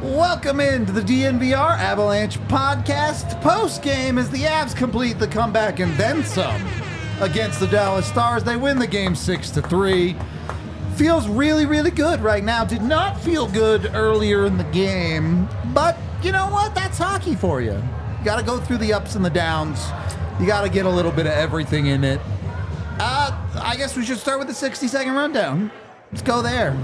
Welcome into the DNVR Avalanche podcast. Post-game as the Avs complete the comeback and then some against the Dallas Stars. They win the game 6-3. Feels really, really good right now. Did not feel good earlier in the game, but you know what? That's hockey for you. You got to go through the ups and the downs. You got to get a little bit of everything in it. I guess we should start with the 60-second rundown. Let's go there.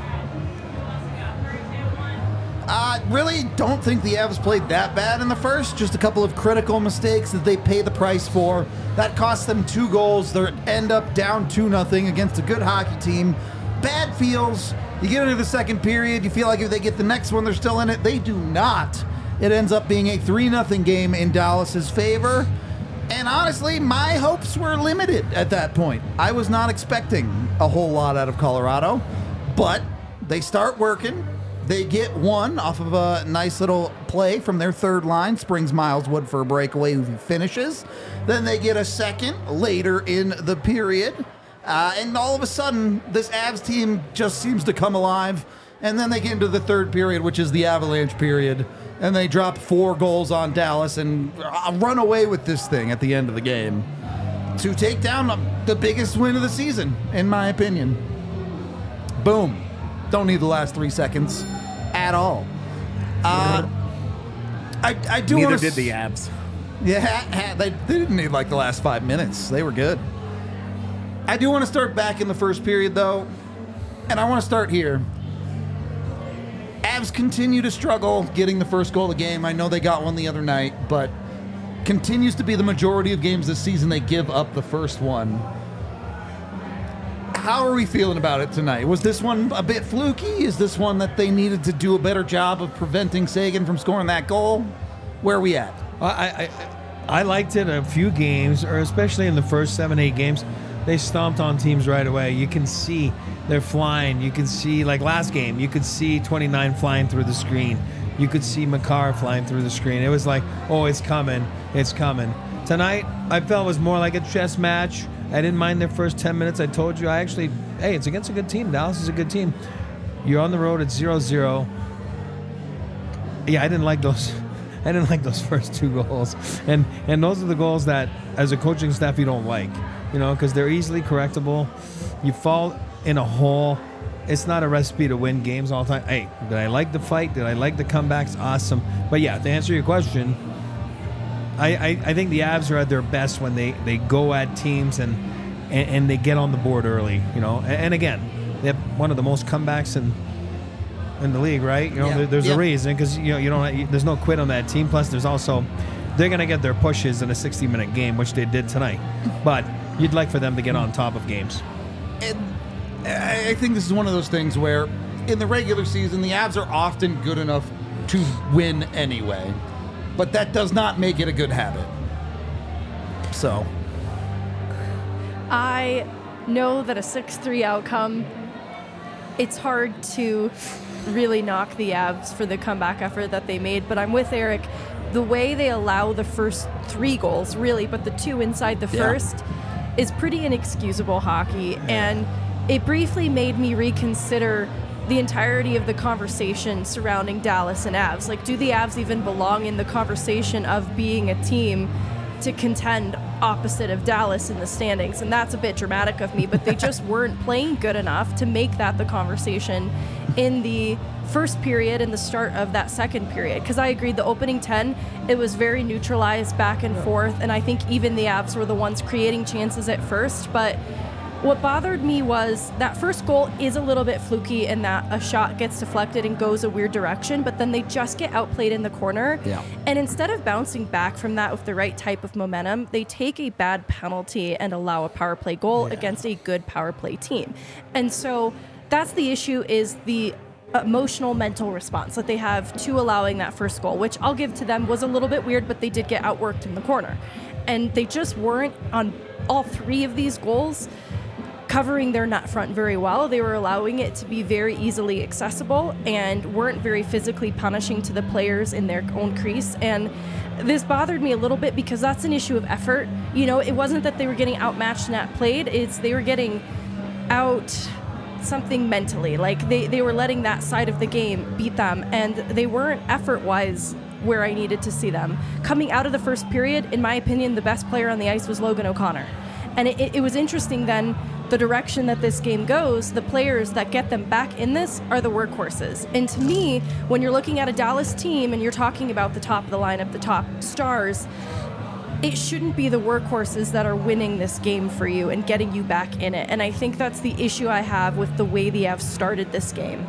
Really don't think the Avs played that bad in the first. Just a couple of critical mistakes that they pay the price for. That cost them 2 goals. They end up down 2-0 against a good hockey team. Bad feels. You get into the second period, you feel like if they get the next one, they're still in it. They do not. It ends up being a 3-0 game in Dallas's favor. And honestly, my hopes were limited at that point. I was not expecting a whole lot out of Colorado, but they start working. They get one off of a nice little play from their third line, springs Miles Wood for a breakaway who finishes. Then they get a second later in the period. And all of a sudden, this Avs team just seems to come alive. And then they get into the third period, which is the Avalanche period. And they drop 4 goals on Dallas and run away with this thing at the end of the game to take down the biggest win of the season, in my opinion. Boom. Don't need the last 3 seconds at all. I do. Neither did the Avs. Yeah, they didn't need like the last 5 minutes. They were good. I do want to start back in the first period, though, and I want to start here. Avs continue to struggle getting the first goal of the game. I know they got one the other night, but continues to be the majority of games this season they give up the first one. How are we feeling about it tonight? Was this one a bit fluky? Is this one that they needed to do a better job of preventing Seguin from scoring that goal? Where are we at? I liked it a few games, or especially in the first 7-8 games. They stomped on teams right away. You can see they're flying. You can see, like last game, you could see 29 flying through the screen. You could see Makar flying through the screen. It was like, oh, it's coming. It's coming. Tonight, I felt it was more like a chess match. I didn't mind their first 10 minutes. I told you, hey, it's against a good team. Dallas is a good team. You're on the road at 0-0. Yeah, I didn't like those. I didn't like those first 2 goals. And those are the goals that, as a coaching staff, you don't like. You know, because they're easily correctable. You fall in a hole. It's not a recipe to win games all the time. Hey, did I like the fight? Did I like the comebacks? Awesome. But yeah, to answer your question, I think the Avs are at their best when they go at teams and they get on the board early, you know. And again, they have one of the most comebacks in the league, right? You know, there's a reason, because you don't. There's no quit on that team. Plus, there's also they're going to get their pushes in a 60-minute game, which they did tonight. But you'd like for them to get on top of games. And I think this is one of those things where in the regular season, the Avs are often good enough to win anyway. But that does not make it a good habit. So. I know that a 6-3 outcome, it's hard to really knock the Avs for the comeback effort that they made, but I'm with Eric. The way they allow the first 3 goals, really, but the 2 inside the first, is pretty inexcusable hockey. Yeah. And it briefly made me reconsider the entirety of the conversation surrounding Dallas and Avs. Like, do the Avs even belong in the conversation of being a team to contend opposite of Dallas in the standings? And that's a bit dramatic of me, but they just weren't playing good enough to make that the conversation in the first period and the start of that second period. Because I agree, the opening 10, it was very neutralized back and forth, and I think even the Avs were the ones creating chances at first, but what bothered me was that first goal is a little bit fluky in that a shot gets deflected and goes a weird direction, but then they just get outplayed in the corner. Yeah. And instead of bouncing back from that with the right type of momentum, they take a bad penalty and allow a power play goal against a good power play team. And so that's the issue, is the emotional mental response that they have to allowing that first goal, which I'll give to them was a little bit weird, but they did get outworked in the corner. And they just weren't, on all 3 of these goals, covering their net front very well. They were allowing it to be very easily accessible and weren't very physically punishing to the players in their own crease. And this bothered me a little bit because that's an issue of effort. You know, it wasn't that they were getting outmatched and outplayed. It's they were getting out something mentally. Like they were letting that side of the game beat them, and they weren't effort-wise where I needed to see them. Coming out of the first period, in my opinion, the best player on the ice was Logan O'Connor. And it was interesting then, the direction that this game goes, the players that get them back in this are the workhorses. And to me, when you're looking at a Dallas team and you're talking about the top of the lineup, the top stars, it shouldn't be the workhorses that are winning this game for you and getting you back in it. And I think that's the issue I have with the way the Avs started this game.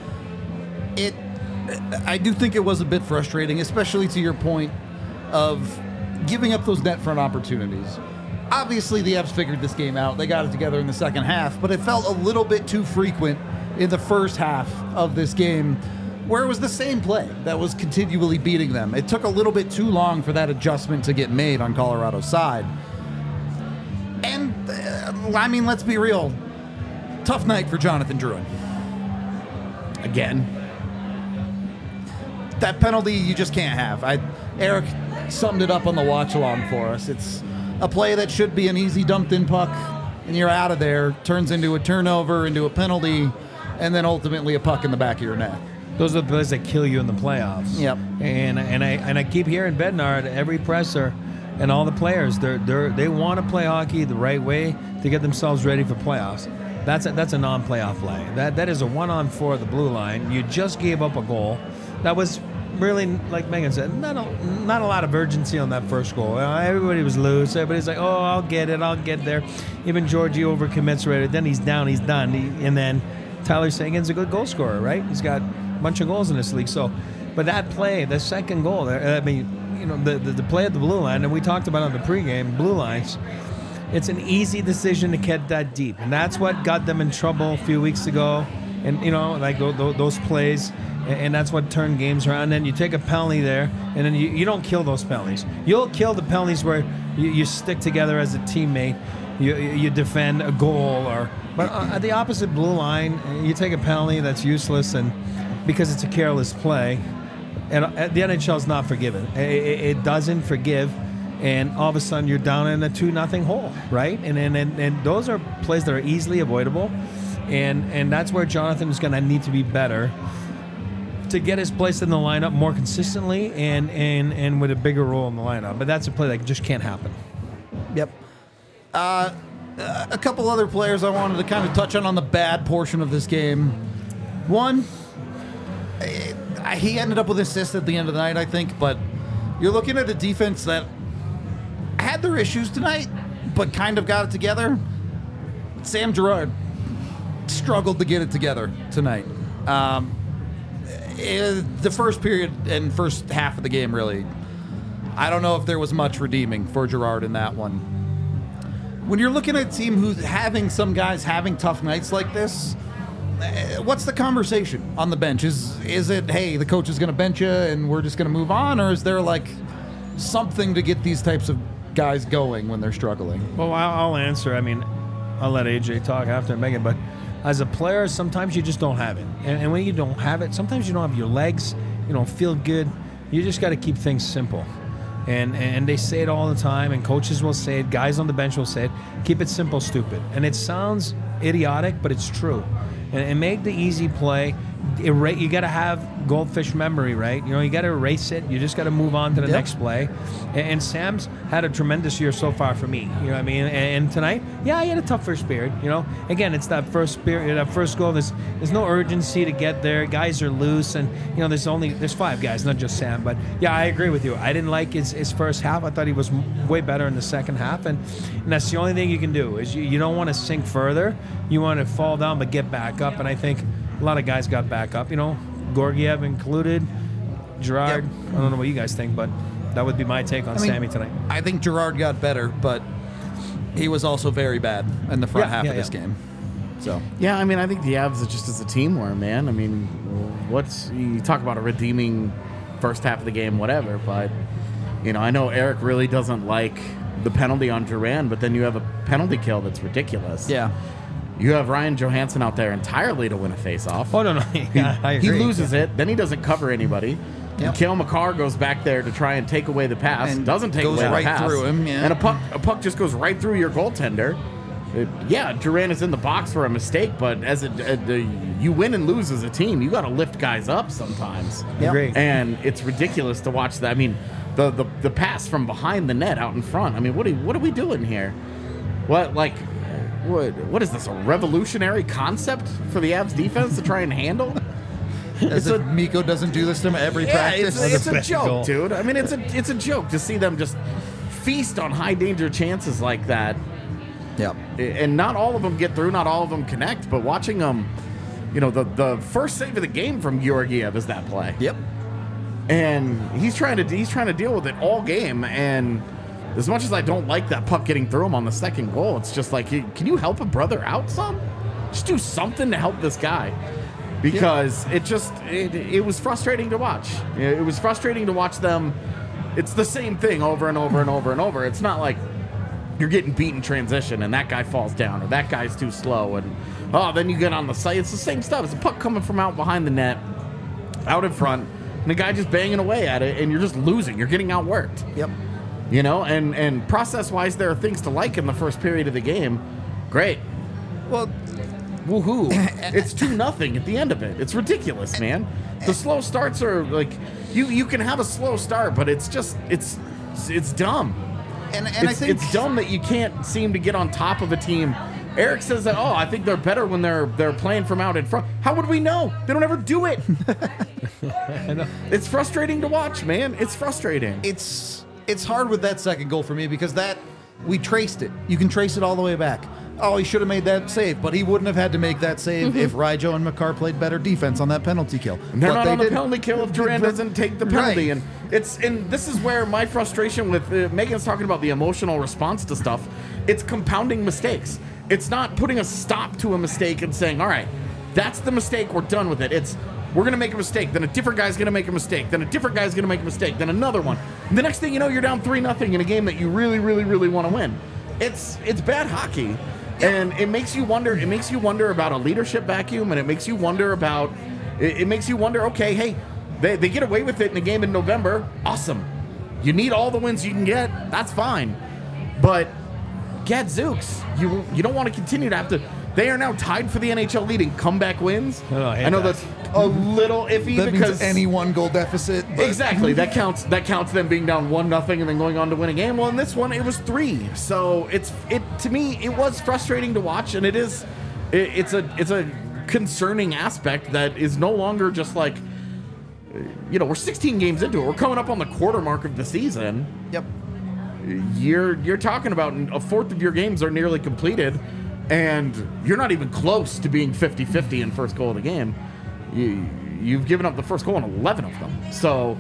I do think it was a bit frustrating, especially to your point of giving up those net front opportunities. Obviously, the Avs figured this game out. They got it together in the second half, but it felt a little bit too frequent in the first half of this game, where it was the same play that was continually beating them. It took a little bit too long for that adjustment to get made on Colorado's side. And, I mean, let's be real. Tough night for Jonathan Drouin. Again. That penalty you just can't have. Eric summed it up on the watch-along for us. It's a play that should be an easy dumped-in puck, and you're out of there. Turns into a turnover, into a penalty, and then ultimately a puck in the back of your net. Those are the plays that kill you in the playoffs. Yep. And I keep hearing Bednar, every presser, and all the players, they want to play hockey the right way to get themselves ready for playoffs. That's a non-playoff play. That is a 1-on-4 at the blue line. You just gave up a goal. That was really, like Megan said, not a lot of urgency on that first goal. Everybody was loose. Everybody's like, oh, I'll get there. Even Georgie overcommits right. Then he's down. He's done. And then Tyler Seguin's a good goal scorer, right? He's got a bunch of goals in this league. So, but that play, the second goal, I mean, you know, the play at the blue line, and we talked about on the pregame, blue lines, it's an easy decision to get that deep. And that's what got them in trouble a few weeks ago. And, you know, like those plays, and that's what turned games around. And then you take a penalty there, and then you don't kill those penalties. You'll kill the penalties where you stick together as a teammate, you defend a goal, but at the opposite blue line, you take a penalty that's useless, and because it's a careless play, and the NHL is not forgiving. It doesn't forgive, and all of a sudden you're down in a 2-0 hole, right? And those are plays that are easily avoidable, and that's where Jonathan is going to need to be better to get his place in the lineup more consistently and with a bigger role in the lineup. But that's a play that just can't happen. Yep. A couple other players I wanted to kind of touch on the bad portion of this game. One, he ended up with an assist at the end of the night, I think, but you're looking at a defense that had their issues tonight, but kind of got it together. Sam Girard struggled to get it together tonight. The first period and first half of the game, really, I don't know if there was much redeeming for Girard in that one. When you're looking at a team who's having some guys having tough nights like this, what's the conversation on the bench? Is it, hey, the coach is going to bench you and we're just going to move on, or is there like something to get these types of guys going when they're struggling? Well, I'll answer. I mean, I'll let AJ talk after Megan, but as a player, sometimes you just don't have it. And when you don't have it, sometimes you don't have your legs, you don't feel good. You just got to keep things simple. And they say it all the time, and coaches will say it, guys on the bench will say it, keep it simple, stupid. And it sounds idiotic, but it's true. And make the easy play. You got to have goldfish memory, right? You know, you got to erase it. You just got to move on to the next play. And Sam's had a tremendous year so far for me. You know what I mean? And tonight, he had a tough first period. You know, again, it's that first period, that first goal. There's no urgency to get there. Guys are loose, and you know, there's 5 guys, not just Sam. But yeah, I agree with you. I didn't like his first half. I thought he was way better in the second half, and that's the only thing you can do is you don't want to sink further. You want to fall down but get back up, and I think a lot of guys got back up, you know, Gorgiev included, Girard. Yep. I don't know what you guys think, but that would be my take on Sammy tonight. I think Girard got better, but he was also very bad in the front half of this game. So yeah, I mean, I think the Avs are just as a team were, man. I mean, you talk about a redeeming first half of the game, whatever, but you know, I know Eric really doesn't like the penalty on Duran, but then you have a penalty kill that's ridiculous. Yeah. You have Ryan Johansson out there entirely to win a face-off. Oh, no. I agree. He loses it. Then he doesn't cover anybody. Yep. Cale Makar goes back there to try and take away the pass. And doesn't take away the pass. Goes right through him, And a puck just goes right through your goaltender. Durant is in the box for a mistake, but as you win and lose as a team, you got to lift guys up sometimes. Yep. Agree. And it's ridiculous to watch that. I mean, the pass from behind the net out in front. I mean, what are we doing here? What is this? A revolutionary concept for the Avs defense to try and handle? As if Mikko doesn't do this to him every practice. It's a best joke, goal. dude. I mean, it's a joke to see them just feast on high danger chances like that. Yep. And not all of them get through, not all of them connect, but watching them, the first save of the game from Georgiev is that play. Yep. And he's trying to deal with it all game. And as much as I don't like that puck getting through him on the second goal, it's just like, can you help a brother out some? Just do something to help this guy. Because it was frustrating to watch. It was frustrating to watch them. It's the same thing over and over and over and over. It's not like you're getting beat in transition and that guy falls down or that guy's too slow and then you get on the site. It's the same stuff. It's a puck coming from out behind the net, out in front, and the guy just banging away at it and you're just losing. You're getting outworked. Yep. And process-wise, there are things to like in the first period of the game. Great. Well, Woohoo. It's 2-0 at the end of it. It's ridiculous, man. The slow starts are like, you can have a slow start, but it's just, it's dumb. and I think it's dumb that you can't seem to get on top of a team. Eric says that, I think they're better when they're playing from out in front. How would we know? They don't ever do it. I know. It's frustrating to watch, man. It's frustrating. it's hard with that second goal for me because we traced it. You can trace it all the way back. Oh, he should have made that save, but he wouldn't have had to make that save if Ryjo and Makar played better defense on that penalty kill. And they're But not they on the didn't. penalty kill if Durant doesn't take the penalty. Right. And this is where my frustration with Megan's talking about the emotional response to stuff. It's compounding mistakes. It's not putting a stop to a mistake and saying, all right, that's the mistake, we're done with it. It's we're going to make a mistake, then a different guy's going to make a mistake, then a different guy's going to make a mistake, then another one. And the next thing you know, you're down 3-0 in a game that you really, really, really want to win. It's bad hockey. And it makes you wonder. It makes you wonder about a leadership vacuum, and it makes you wonder about. It makes you wonder. Okay, hey, they get away with it in a game in November. Awesome. You need all the wins you can get. That's fine. But gadzooks, you don't want to continue to have to. They are now tied for the NHL lead in comeback wins. Oh, I hate I know that. that's a little iffy That because means any one goal deficit. But exactly that counts. That counts them being down 1-0 and then going on to win a game. Well, in this one, it was 3. So to me, it was frustrating to watch, and it's a concerning aspect that is no longer just like, we're 16 games into it. We're coming up on the quarter mark of the season. Yep. You're talking about a fourth of your games are nearly completed, and you're not even close to being 50-50 in first goal of the game. You've given up the first goal in 11 of them. So,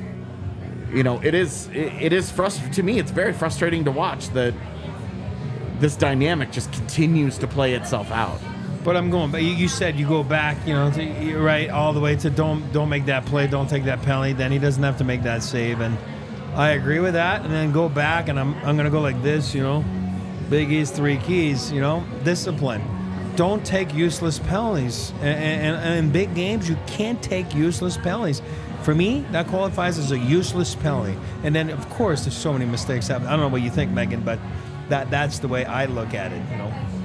it is frustrating. To me, it's very frustrating to watch that this dynamic just continues to play itself out. But I'm going. But you said you go back. You're right all the way to don't make that play, don't take that penalty. Then he doesn't have to make that save, and I agree with that. And then go back, and I'm gonna go like this. Big E's 3 keys. Discipline. Don't take useless penalties. And in big games, you can't take useless penalties. For me, that qualifies as a useless penalty. And then, of course, there's so many mistakes happen. I don't know what you think, Megan, but that's the way I look at it.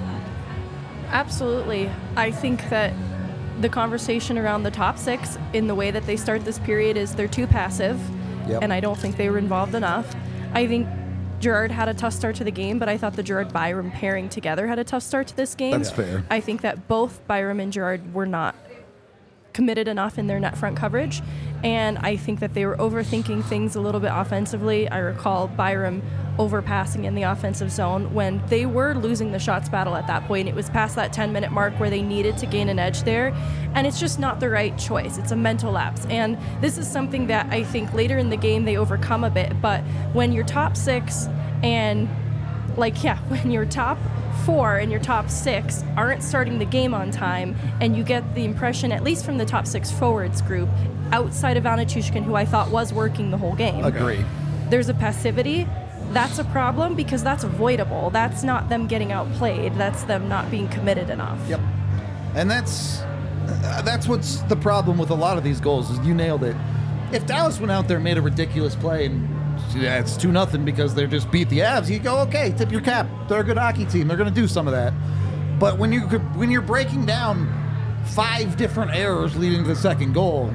Absolutely. I think that the conversation around the top 6 in the way that they start this period is they're too passive, Yep. and I don't think they were involved enough. I think Gerard had a tough start to the game, but I thought the Gerard-Byram pairing together had a tough start to this game. That's fair. I think that both Byram and Gerard were not committed enough in their net front coverage, and I think that they were overthinking things a little bit offensively. I recall Byram overpassing in the offensive zone when they were losing the shots battle at that point. It was past that 10-minute mark where they needed to gain an edge there, and it's just not the right choice. It's a mental lapse, and this is something that I think later in the game they overcome a bit, but when your top 6 and when your top 4 and your top 6 aren't starting the game on time, and you get the impression, at least from the top 6 forwards group, outside of Anichushkin, who I thought was working the whole game. Agree. There's a passivity. That's a problem because that's avoidable. That's not them getting outplayed. That's them not being committed enough. Yep. And that's what's the problem with a lot of these goals is you nailed it. If Dallas went out there and made a ridiculous play and it's 2-0 because they just beat the Avs, you go, okay, tip your cap. They're a good hockey team. They're going to do some of that. But when you're breaking down 5 different errors leading to the second goal,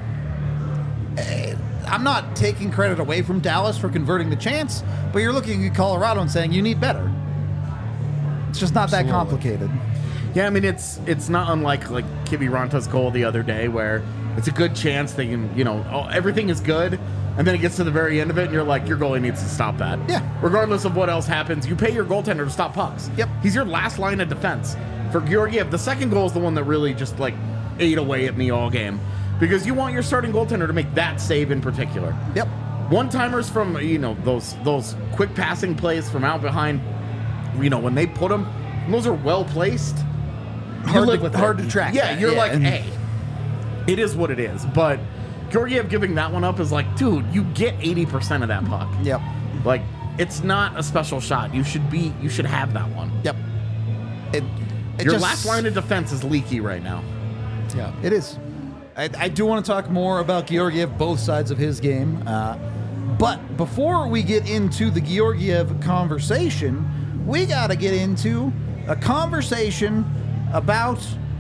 I'm not taking credit away from Dallas for converting the chance, but you're looking at Colorado and saying you need better. It's just not that complicated. Yeah, I mean, it's not unlike Kiviranta's goal the other day, where it's a good chance they can, everything is good, and then it gets to the very end of it, and you're like, your goalie needs to stop that. Yeah. Regardless of what else happens, you pay your goaltender to stop pucks. Yep. He's your last line of defense. For Georgiev, the second goal is the one that really just, ate away at me all game. Because you want your starting goaltender to make that save in particular. Yep. One-timers from, those quick passing plays from out behind, when they put them, those are well-placed. Hard to track. Yeah, that. you're Yeah, hey, it is what it is. But Georgiev giving that one up is like, dude, you get 80% of that puck. Yep. It's not a special shot. You should have that one. Yep. Your last line of defense is leaky right now. Yeah, it is. I do want to talk more about Georgiev, both sides of his game. But before we get into the Georgiev conversation, we got to get into a conversation about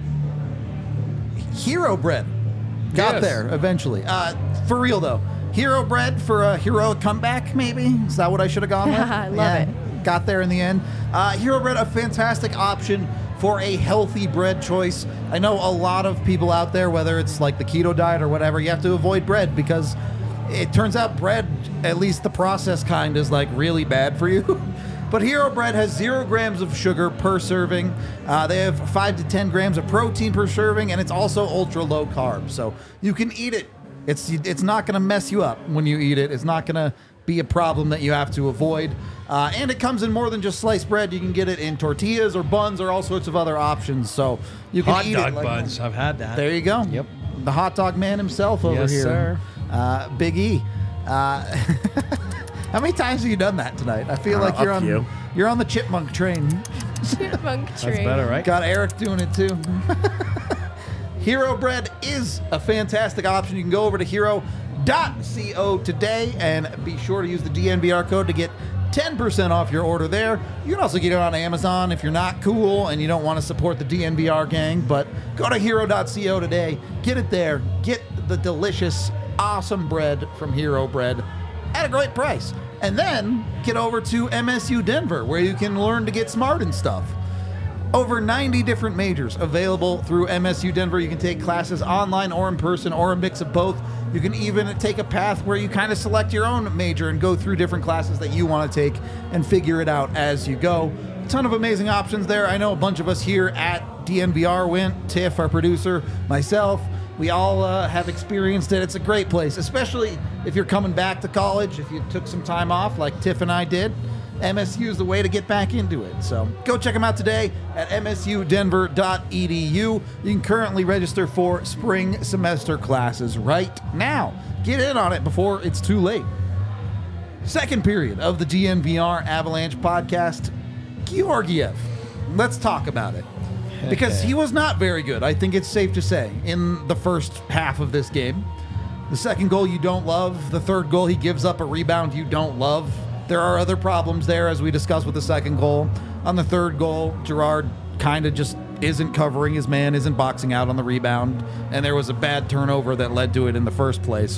Hero Bread. Got there eventually. For real, though. Hero Bread for a heroic comeback, maybe? Is that what I should have gone with? I love it. Got there in the end. Hero Bread, a fantastic option for a healthy bread choice. I know a lot of people out there, whether it's like the keto diet or whatever, you have to avoid bread because it turns out bread, at least the processed kind, is really bad for you. But Hero Bread has 0 grams of sugar per serving. They have 5 to 10 grams of protein per serving, and it's also ultra low carb. So you can eat it. It's not going to mess you up when you eat it. It's not going to be a problem that you have to avoid. And it comes in more than just sliced bread. You can get it in tortillas or buns or all sorts of other options. So you can eat hot it dog buns. I've had that. There you go. Yep. The hot dog man himself over Yes, here. sir. Big E. How many times have you done that tonight? I feel like you're on the chipmunk train. Chipmunk That's train. better, right? Got Eric doing it too. Hero Bread is a fantastic option. You can go over to hero.co today and be sure to use the DNVR code to get 10% off your order there. You can also get it on Amazon if you're not cool and you don't want to support the DNVR gang, but go to hero.co today. Get it there. Get the delicious, awesome bread from Hero Bread at a great price. And then get over to MSU Denver, where you can learn to get smart and stuff. Over 90 different majors available through MSU Denver. You can take classes online or in person or a mix of both. You can even take a path where you kind of select your own major and go through different classes that you want to take and figure it out as you go. A ton of amazing options there. I know a bunch of us here at DNVR went. Tiff, our producer, myself, we all have experienced it. It's a great place, especially if you're coming back to college, if you took some time off like Tiff and I did. MSU is the way to get back into it. So go check them out today at msudenver.edu. You can currently register for spring semester classes right now. Get in on it before it's too late. Second period of the DNVR Avalanche podcast, Georgiev. Let's talk about it. Because he was not very good, I think it's safe to say, in the first half of this game. The second goal you don't love. The third goal, he gives up a rebound you don't love. There are other problems there, as we discussed with the second goal. On the third goal, Gerard kind of just isn't covering his man, isn't boxing out on the rebound, and there was a bad turnover that led to it in the first place.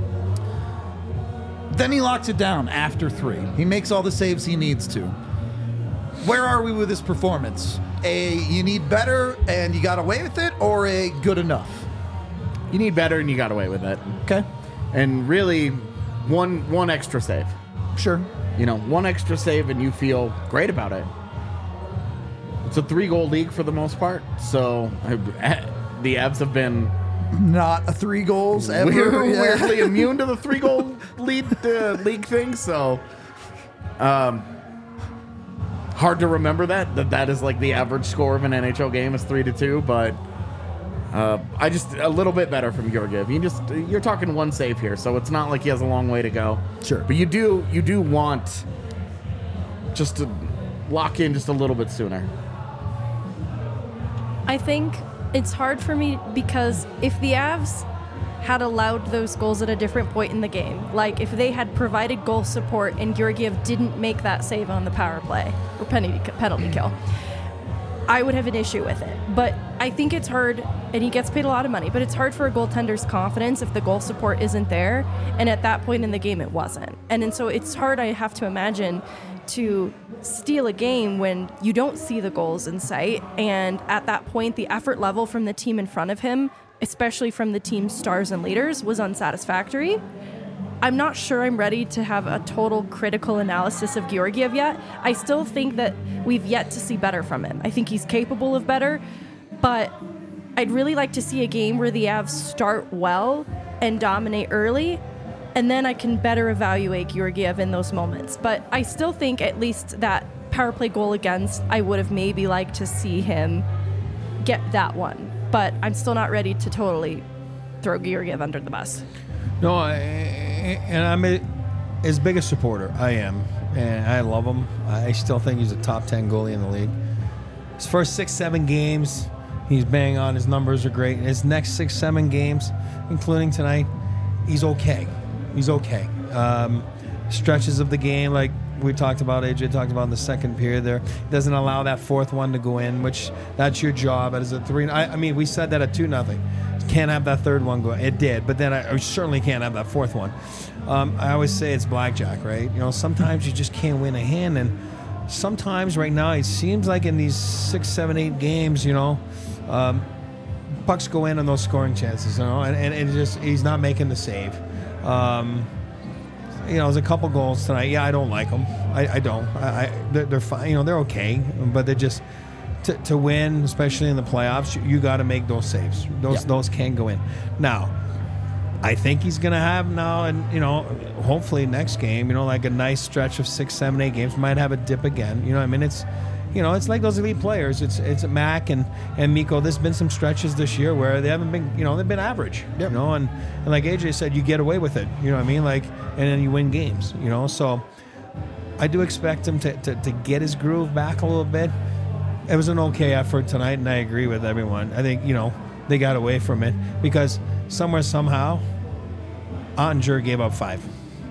Then he locks it down after 3. He makes all the saves he needs to. Where are we with this performance? You need better and you got away with it, or a good enough? You need better, and you got away with it. Okay. And really, one extra save. Sure. One extra save, and you feel great about it. It's a 3-goal league for the most part, so the Avs have been Not a 3 goals ever. weirdly immune to the 3-goal league thing. So, hard to remember that is like the average score of an NHL game is 3-2, but I just a little bit better from Georgiev. You're talking 1 save here, so it's not like he has a long way to go. Sure. But you do want just to lock in just a little bit sooner. I think it's hard for me because if the Avs had allowed those goals at a different point in the game. Like if they had provided goal support and Georgiev didn't make that save on the power play or penalty kill, I would have an issue with it. But I think it's hard, and he gets paid a lot of money, but it's hard for a goaltender's confidence if the goal support isn't there, and at that point in the game it wasn't. And so it's hard, I have to imagine, to steal a game when you don't see the goals in sight, and at that point the effort level from the team in front of him, especially from the team's stars and leaders, was unsatisfactory. I'm not sure I'm ready to have a total critical analysis of Georgiev yet. I still think that we've yet to see better from him. I think he's capable of better, but I'd really like to see a game where the Avs start well and dominate early, and then I can better evaluate Georgiev in those moments. But I still think at least that power play goal against, I would have maybe liked to see him get that one. But I'm still not ready to totally throw Georgiev under the bus. No, and I'm as big a supporter. I am, and I love him. I still think he's a top 10 goalie in the league. His first 6-7 games, he's bang on. His numbers are great. His next 6-7 games, including tonight, he's okay. He's okay. Stretches of the game, like we talked about, AJ talked about in the second period there, doesn't allow that fourth one to go in, which that's your job as a 3. I mean, we said that at 2-0. Can't have that third one go. It did, but then I certainly can't have that fourth one. I always say it's blackjack, right? You know, sometimes you just can't win a hand, and sometimes right now it seems like in these 6, 7, 8 games, you know, pucks go in on those scoring chances, you know, and it just he's not making the save. You know, there's a couple goals tonight. Yeah, I don't like them. I don't. They're fine. You know, they're okay, but they're just. To win, especially in the playoffs, you got to make those saves. Those can go in. Now, I think he's going to have now, and you know, hopefully next game, you know, like a nice stretch of 6, 7, 8 games, might have a dip again. You know, I mean, it's, you know, it's like those elite players. It's Mac and Mikko. There's been some stretches this year where they haven't been, you know, they've been average. Yep. You know, and like AJ said, you get away with it. You know what I mean? Like, and then you win games. You know, so I do expect him to get his groove back a little bit. It was an okay effort tonight, and I agree with everyone. I think, you know, they got away from it because somewhere, somehow, Ottinger gave up 5.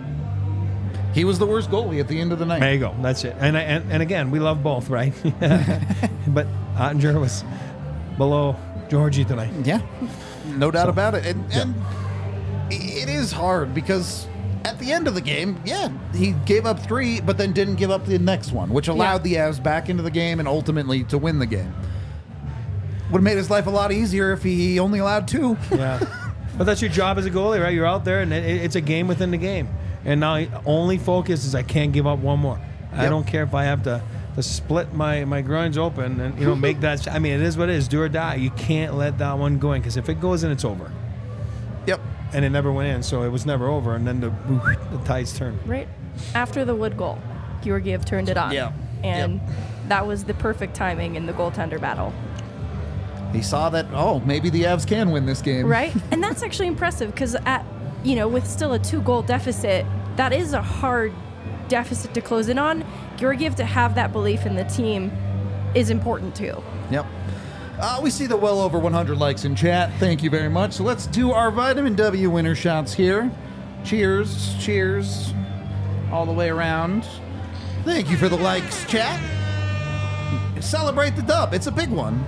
He was the worst goalie at the end of the night. There you go. That's it. And again, we love both, right? But Ottinger was below Georgie tonight. Yeah, no doubt about it. And it is hard because at the end of the game, he gave up 3, but then didn't give up the next one, which allowed the Avs back into the game and ultimately to win the game. Would have made his life a lot easier if he only allowed 2. Yeah. But that's your job as a goalie, right? You're out there, and it's a game within the game. And now only focus is I can't give up one more. Yep. I don't care if I have to split my groins open and, you know, make that. I mean, it is what it is. Do or die. You can't let that one go in because if it goes in, it's over. Yep. And it never went in, so it was never over. And then the tides turned. Right. After the Wood goal, Georgiev turned it on. Yeah. And that was the perfect timing in the goaltender battle. He saw that, maybe the Avs can win this game. Right. And that's actually impressive because with still a 2-goal deficit, that is a hard deficit to close in on. Georgiev to have that belief in the team is important too. Yep. We see the well over 100 likes in chat. Thank you very much. So let's do our Vitamin W winner shots here. Cheers. Cheers. All the way around. Thank you for the likes, chat. Celebrate the dub. It's a big one.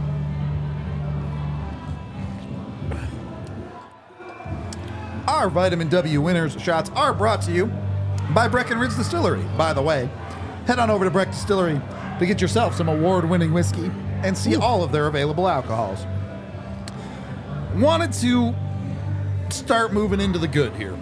Our Vitamin W winners shots are brought to you by Breckenridge Distillery. By the way, head on over to Breck Distillery to get yourself some award-winning whiskey and see all of their available alcohols. Wanted to start moving into the good here.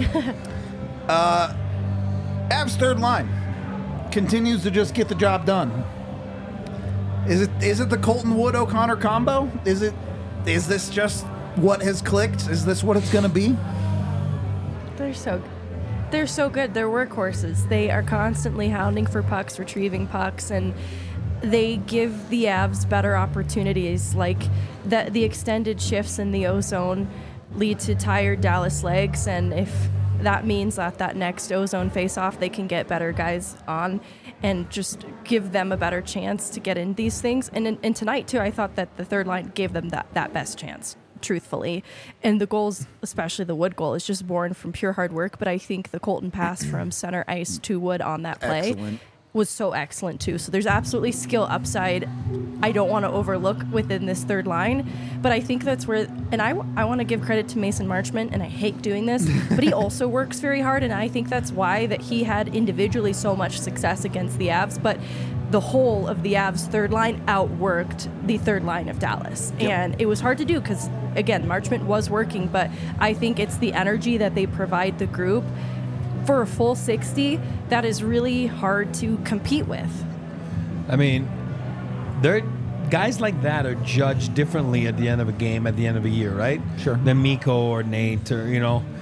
Avs third line continues to just get the job done. Is it the Colton Wood O'Connor combo? Is this just what has clicked? Is this what it's going to be? They're so good. They're workhorses. They are constantly hounding for pucks, retrieving pucks, and they give the Avs better opportunities. Like the extended shifts in the O-zone lead to tired Dallas legs, and if that means that next O-zone face-off, they can get better guys on and just give them a better chance to get in these things. And tonight, too, I thought that the third line gave them that best chance. truthfully. And the goals, especially the Wood goal, is just born from pure hard work. But I think the Colton pass from center ice to Wood on that play Excellent. was so excellent too. So there's absolutely skill upside I don't want to overlook within this third line. But I think that's where, and I want to give credit to Mason Marchment, and I hate doing this, but he also works very hard, and I think that's why that he had individually so much success against the Avs. But the whole of the Avs third line outworked the third line of Dallas. And it was hard to do because, again, Marchment was working, but I think it's the energy that they provide the group for a full 60 that is really hard to compete with. I mean, guys like that are judged differently at the end of a game, at the end of a year, right? Sure. Than Mikko or Nate or,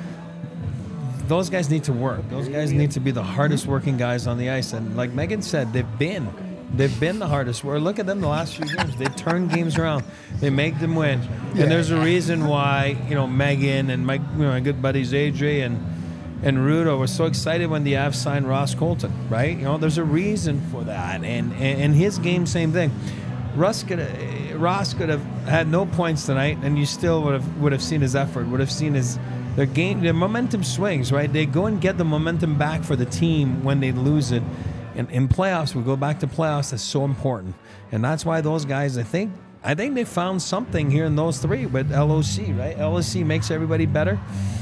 those guys need to work. Those guys need to be the hardest working guys on the ice. And like Megan said, they've been the hardest work. Look at them the last few games. They turn games around. They make them win. Yeah. And there's a reason why, Megan and my good buddies AJ and Rudo were so excited when the Avs signed Ross Colton, right? There's a reason for that. And his game, same thing. Ross could have had no points tonight, and you still would have seen his effort, would have seen their game. The momentum swings, right? They go and get the momentum back for the team when they lose it. And in playoffs, we go back to playoffs. That's so important, and that's why those guys. I think they found something here in those three with LOC, right? LOC makes everybody better.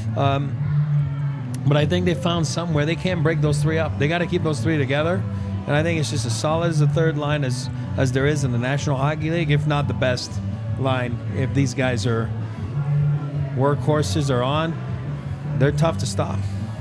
But I think they found something where they can't break those three up. They got to keep those three together. And I think it's just as solid as the third line as there is in the National Hockey League, if not the best line. If these guys are workhorses are on, they're tough to stop.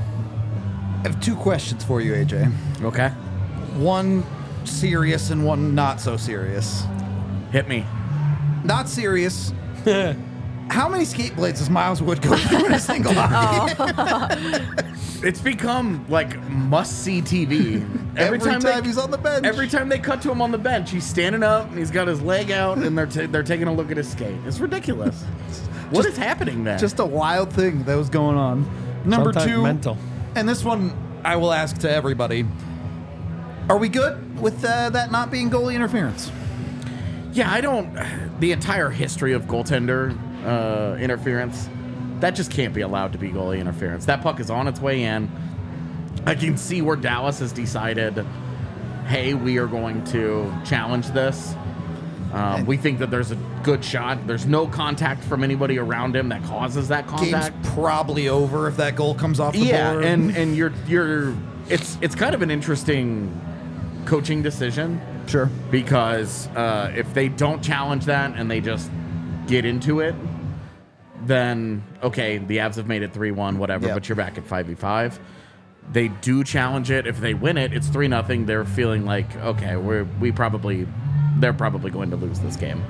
I have two questions for you, AJ. Okay. One serious and one not so serious. Hit me. Not serious. How many skate blades does Miles Wood go through in a single hockey game? It's become like must-see TV. Every time he's on the bench. Every time they cut to him on the bench, he's standing up and he's got his leg out, and they're taking a look at his skate. It's ridiculous. What is happening there? Just a wild thing that was going on. Number Sometimes two, mental. and this one I will ask to everybody. Are we good with that not being goalie interference? Yeah, I don't. The entire history of goaltender interference, that just can't be allowed to be goalie interference. That puck is on its way in. I can see where Dallas has decided, hey, we are going to challenge this. We think that there's a good shot. There's no contact from anybody around him that causes that contact. Game's probably over if that goal comes off the board. Yeah, and you're it's kind of an interesting coaching decision. Sure. Because if they don't challenge that and they just get into it, then, okay, the Avs have made it 3-1, whatever, Yep. but you're back at 5v5. They do challenge it. If they win it, it's 3-0. They're feeling like, okay, they're probably going to lose this game.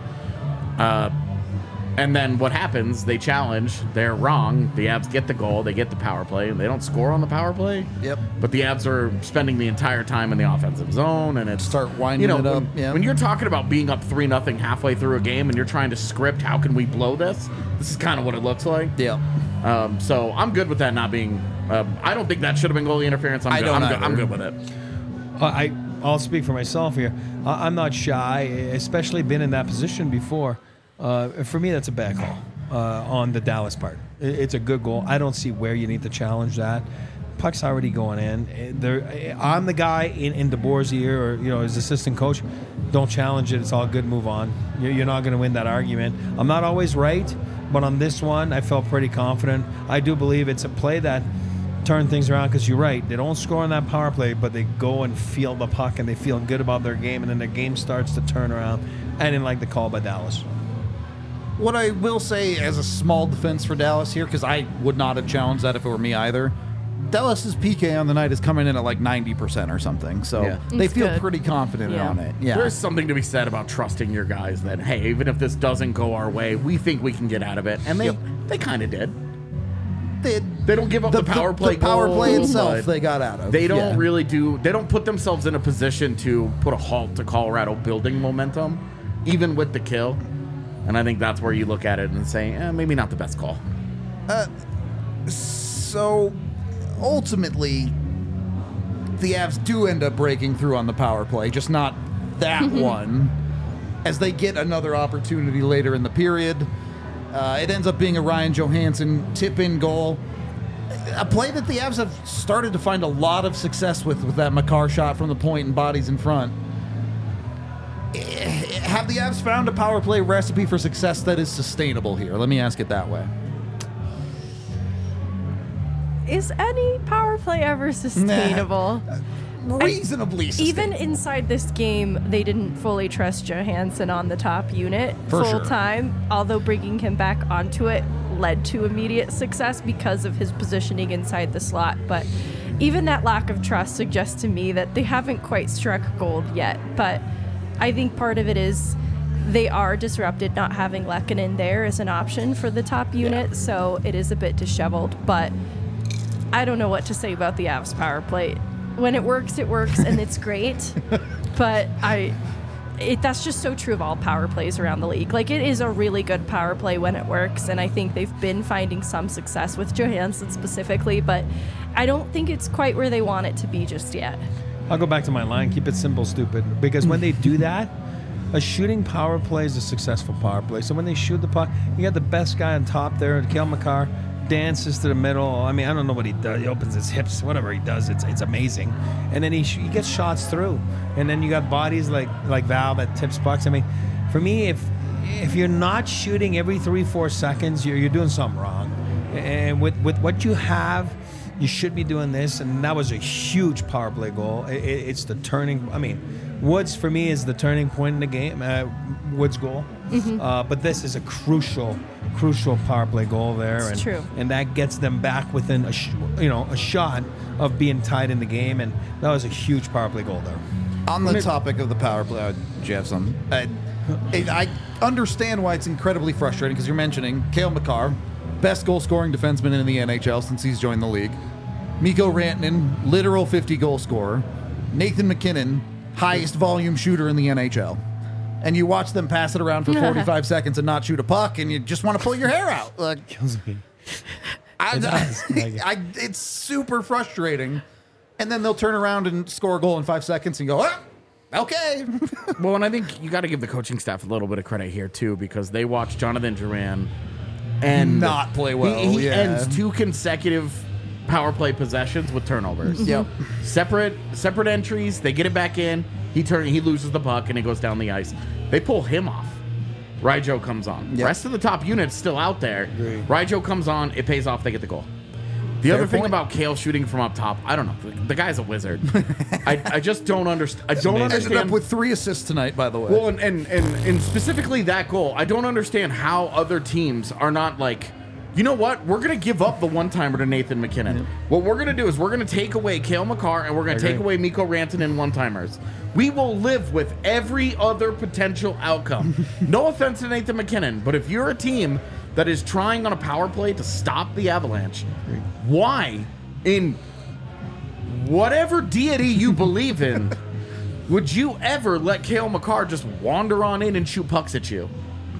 And then what happens? They challenge. They're wrong. The Avs get the goal. They get the power play. And they don't score on the power play. Yep. But the Avs are spending the entire time in the offensive zone, and it's Start winding it up. When you're talking about being up 3-0 halfway through a game, and you're trying to script how can we blow this. This is kind of what it looks like. Yeah. So I'm good with that not being. I don't think that should have been goalie interference. I don't either. I'm good with it. I'll speak for myself here. I'm not shy, especially been in that position before. For me, that's a bad call on the Dallas part. It's a good goal. I don't see where you need to challenge that. Puck's already going in. I'm the guy in DeBoer's ear or his assistant coach. Don't challenge it. It's all good. Move on. You're not going to win that argument. I'm not always right, but on this one, I felt pretty confident. I do believe it's a play that turned things around because you're right. They don't score on that power play, but they go and feel the puck and they feel good about their game, and then the game starts to turn around. I didn't like the call by Dallas. What I will say as a small defense for Dallas here, because I would not have challenged that if it were me either, Dallas's PK on the night is coming in at like 90% or something. So Yeah. they It's feel good. pretty confident Yeah. on it. Yeah. There's something to be said about trusting your guys that, hey, even if this doesn't go our way, we think we can get out of it. And they kind of did. They don't give up the power play The power play goal, itself but they got out of. They don't Yeah. really do. They don't put themselves in a position to put a halt to Colorado building momentum, even with the kill. And I think that's where you look at it and say, maybe not the best call. So ultimately, the Avs do end up breaking through on the power play, just not that one, as they get another opportunity later in the period. It ends up being a Ryan Johansson tip-in goal. A play that the Avs have started to find a lot of success with that Makar shot from the point and bodies in front. Have the Avs found a power play recipe for success that is sustainable here? Let me ask it that way. Is any power play ever sustainable? Reasonably sustainable. Even inside this game, they didn't fully trust Johansson on the top unit For full sure. time, although bringing him back onto it led to immediate success because of his positioning inside the slot. But even that lack of trust suggests to me that they haven't quite struck gold yet. But I think part of it is they are disrupted not having Lehkonen there as an option for the top unit, so it is a bit disheveled. But I don't know what to say about the Avs power play. When it works, and it's great. But that's just so true of all power plays around the league. Like, it is a really good power play when it works, and I think they've been finding some success with Johansson specifically, but I don't think it's quite where they want it to be just yet. I'll go back to my line. Keep it simple, stupid. Because when they do that, a shooting power play is a successful power play. So when they shoot the puck, you got the best guy on top there, Cale Makar, dances to the middle. I mean, I don't know what he does. He opens his hips, whatever he does. It's amazing. And then he gets shots through. And then you got bodies like Val that tips pucks. I mean, for me, if you're not shooting every 3-4 seconds, you're doing something wrong. And with what you have, you should be doing this. And that was a huge power play goal. It's the turning. I mean, Woods for me is the turning point in the game. Woods' goal. But this is a crucial power play goal there. It's true. And that gets them back within a shot of being tied in the game. And that was a huge power play goal there. On the topic of the power play, Jeff, I understand why it's incredibly frustrating because you're mentioning Cale Makar, best goal-scoring defenseman in the NHL since he's joined the league. Mikko Rantanen, literal 50-goal scorer. Nathan MacKinnon, highest volume shooter in the NHL. And you watch them pass it around for 45 seconds and not shoot a puck, and you just want to pull your hair out. Like, Kills me. it's super frustrating. And then they'll turn around and score a goal in 5 seconds and go, okay. Well, and I think you got to give the coaching staff a little bit of credit here, too, because they watched Jonathan Duran and not play well. He ends 2 consecutive power play possessions with turnovers. Yep. Separate entries. They get it back in. He loses the puck and it goes down the ice. They pull him off. Ryjo comes on. Yep. Rest of the top unit's still out there. Agreed. Ryjo comes on. It pays off. They get the goal. The Fair other thing point. about Cale shooting from up top, I don't know. The guy's a wizard. I just don't understand. I don't Ended understand. up with 3 assists tonight, by the way. Well, and specifically that goal, I don't understand how other teams are not like, you know what? We're going to give up the one-timer to Nathan MacKinnon. Yeah. What we're going to do is we're going to take away Cale Makar and we're going to take away Mikko Rantanen one-timers. We will live with every other potential outcome. No offense to Nathan MacKinnon, but if you're a team that is trying on a power play to stop the Avalanche, why, in whatever deity you believe in, would you ever let Cale Makar just wander on in and shoot pucks at you?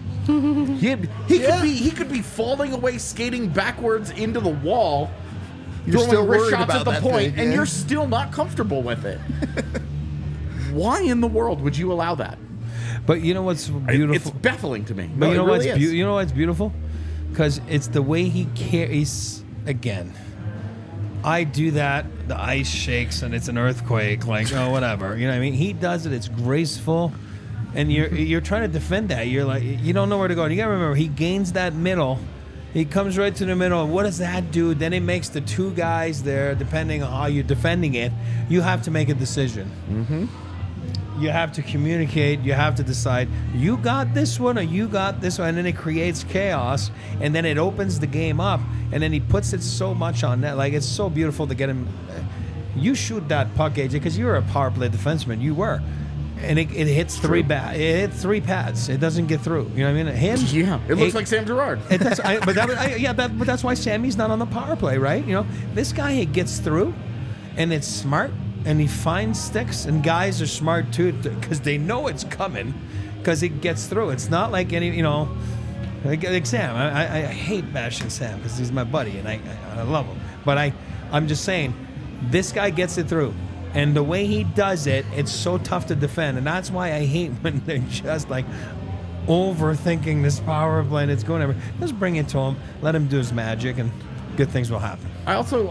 He could be falling away, skating backwards into the wall, You're throwing still wrist worried shots about at the that point, thing, and yeah. you're still not comfortable with it. Why in the world would you allow that? But you know what's beautiful? It's baffling to me. But No, you know it really what's is. you know what's beautiful? Because it's the way he carries. Again, I do that. The ice shakes and it's an earthquake. Like, oh, whatever. You know what I mean? He does it. It's graceful, and you're trying to defend that. You're like, you don't know where to go. And you gotta remember, he gains that middle. He comes right to the middle. And what does that do? Then it makes the 2 guys there, depending on how you're defending it. You have to make a decision. Mm-hmm. You have to communicate. You have to decide, you got this one or you got this one. And then it creates chaos. And then it opens the game up. And then he puts it so much on net. Like, it's so beautiful to get him. You shoot that puck, AJ, because you're a power play defenseman. You were. And it hits 3 It hits 3 pads. It doesn't get through. You know what I mean? Him. Yeah, it looks like Sam Girard. But that's why Sammy's not on the power play, right? You know, this guy, it gets through, and it's smart, and he finds sticks, and guys are smart too because they know it's coming, because it gets through. It's not like any, you know, like Sam. I hate bashing Sam because he's my buddy, and I love him. But I'm just saying, this guy gets it through. And the way he does it, it's so tough to defend. And that's why I hate when they're just like, overthinking this power play and it's going everywhere. Just bring it to him, let him do his magic, and good things will happen. I also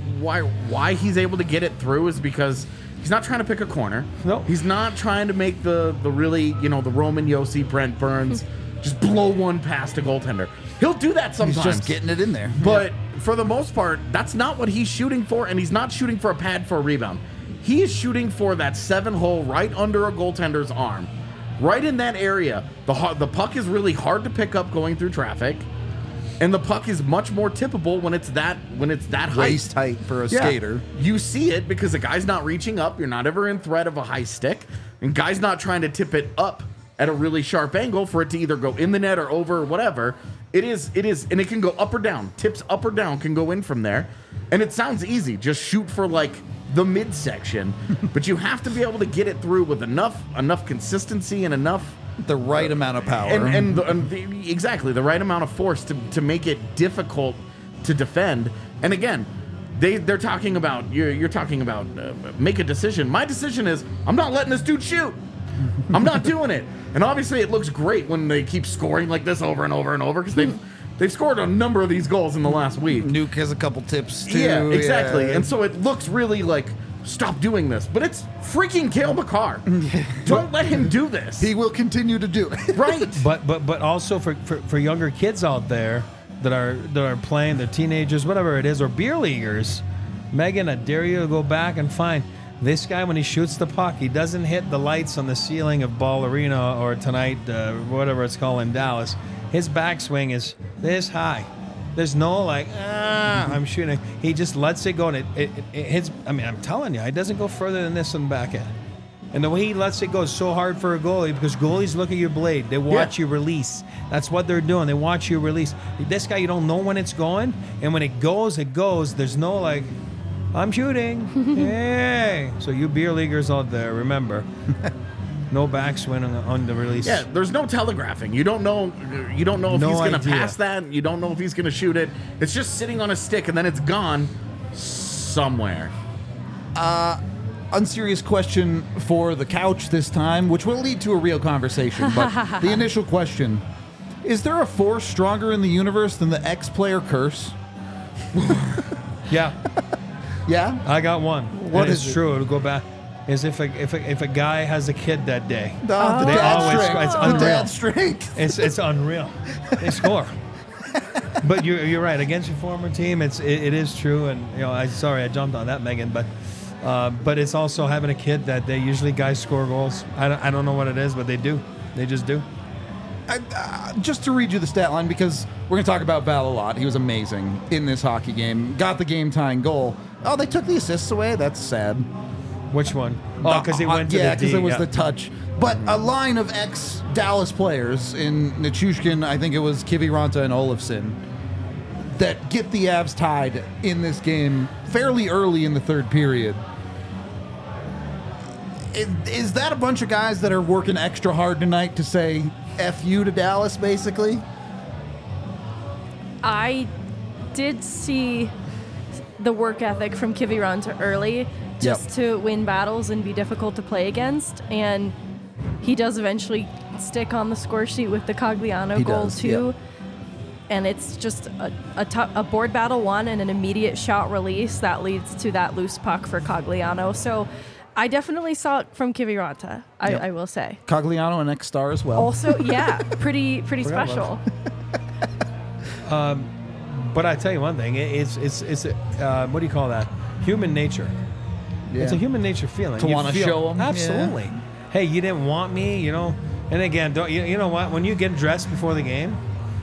why he's able to get it through is because he's not trying to pick a corner. No. He's not trying to make the really, the Roman Yossi, Brent Burns, just blow one past a goaltender. He'll do that sometimes. He's just getting it in there. But for the most part, that's not what he's shooting for, and he's not shooting for a pad for a rebound. He is shooting for that 7-hole right under a goaltender's arm. Right in that area. The puck is really hard to pick up going through traffic, and the puck is much more tippable when it's that height. Waist height for a skater. You see it because the guy's not reaching up. You're not ever in threat of a high stick, and guy's not trying to tip it up at a really sharp angle for it to either go in the net or over or whatever. It is, and it can go up or down. Tips up or down can go in from there, and it sounds easy. Just shoot for like the midsection, but you have to be able to get it through with enough consistency and enough The right amount of power. Exactly the right amount of force to make it difficult to defend. And again, they're talking about you're talking about make a decision. My decision is I'm not letting this dude shoot. I'm not doing it. And obviously, it looks great when they keep scoring like this over and over and over because they've scored a number of these goals in the last week. Nuke has a couple tips too. Yeah, exactly. Yeah. And so it looks really like stop doing this, but it's freaking Cale Makar. Don't let him do this. He will continue to do it. Right. But also for younger kids out there that are playing, they're teenagers, whatever it is, or beer leaguers, Megan, I dare you to go back and find this guy when he shoots the puck. He doesn't hit the lights on the ceiling of Ball Arena or tonight, whatever it's called in Dallas. His backswing is this high. There's no I'm shooting. He just lets it go, and it hits. I mean, I'm telling you, it doesn't go further than this on the backhand. And the way he lets it go is so hard for a goalie because goalies look at your blade. They watch you release. That's what they're doing. They watch you release. This guy, you don't know when it's going, and when it goes, it goes. There's no I'm shooting. Hey. So you beer leaguers out there, remember. No backswing on the release. Yeah, there's no telegraphing. You don't know if he's going to pass that. You don't know if he's going to shoot it. It's just sitting on a stick, and then it's gone somewhere. Unserious question for the couch this time, which will lead to a real conversation. But the initial question, is there a force stronger in the universe than the X-player curse? Yeah. Yeah? I got one. What is is it? true. It'll go back. Is if a guy has a kid that day. The They dad always- strength. it's The unreal. dad strength. It's unreal. They score. But you're right. Against your former team, it is true. And I jumped on that, Megan. But it's also having a kid that day. Usually guys score goals. I don't know what it is, but they do. They just do. Just to read you the stat line, because we're going to talk about Val a lot. He was amazing in this hockey game. Got the game-tying goal. Oh, they took the assists away? That's sad. Which one? Oh, because he went to yeah, the D. because it was the touch. But a line of ex-Dallas players in Nichushkin, I think it was Kiviranta and Olofsson, that get the Avs tied in this game fairly early in the third period. Is that a bunch of guys that are working extra hard tonight to say F you to Dallas, basically? I did see the work ethic from Kiviranta early just to win battles and be difficult to play against. And he does eventually stick on the score sheet with the Cogliano goal too. Yep. And it's just a board battle won and an immediate shot release that leads to that loose puck for Cogliano. So I definitely saw it from Kiviranta, I will say. Cogliano, an ex-star as well. Also, yeah, pretty special. But I tell you one thing, it's what do you call that? Human nature. Yeah. It's a human nature feeling. To You wanna feel- show 'em, Absolutely. yeah. Hey, you didn't want me, And again, don't you know what? When you get dressed before the game,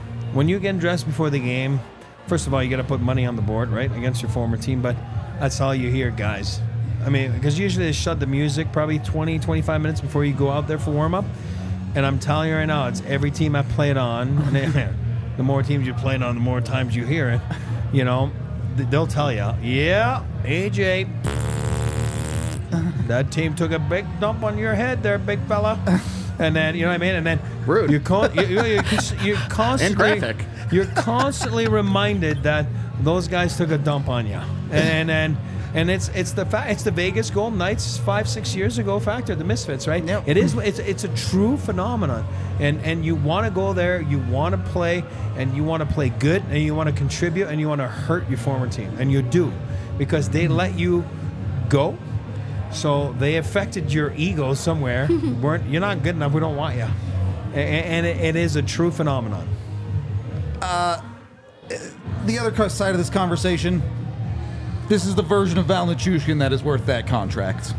first of all, you got to put money on the board, right, against your former team. But that's all you hear, guys. I mean, because usually they shut the music probably 20, 25 minutes before you go out there for warm-up. And I'm telling you right now, it's every team I played on. And the more teams you played on, the more times you hear it. They'll tell you, yeah, AJ, that team took a big dump on your head there, big fella. And then, you know what I mean? And then Rude. you're constantly And graphic. You're constantly reminded that those guys took a dump on you, and it's the Vegas Golden Knights 5-6 years ago factor, the Misfits, right? Yep. It's a true phenomenon, and you want to go there, you want to play, and you want to play good, and you want to contribute, and you want to hurt your former team, and you do, because they let you go, so they affected your ego somewhere. You're not good enough. We don't want you, and it is a true phenomenon. The other side of this conversation, this is the version of Val Nichushkin that is worth that contract.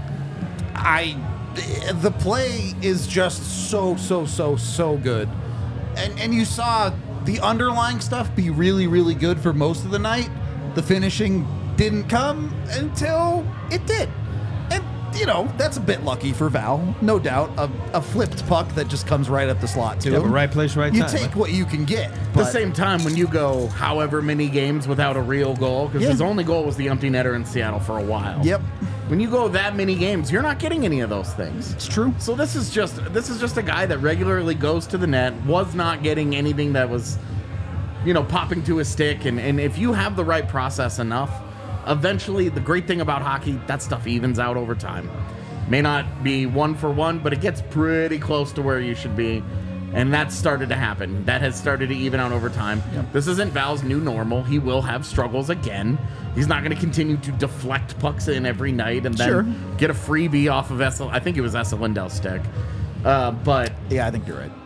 The play is just so good. And you saw the underlying stuff be really, really good for most of the night. The finishing didn't come until it did. And, that's a bit lucky for Val, no doubt. A flipped puck that just comes right up the slot to him. But right place, right You time. take what you can get. At the same time, when you go however many games without a real goal, because his only goal was the empty netter in Seattle for a while. Yep. When you go that many games, you're not getting any of those things. It's true. So this is just a guy that regularly goes to the net, was not getting anything that was, popping to his stick. And if you have the right process enough, eventually, the great thing about hockey, that stuff evens out over time. May not be 1 for 1, but it gets pretty close to where you should be. And that's started to happen. That has started to even out over time. Yep. This isn't Val's new normal. He will have struggles again. He's not going to continue to deflect pucks in every night and then get a freebie off of I think it was Esa Lindell's stick. But yeah, I think you're right.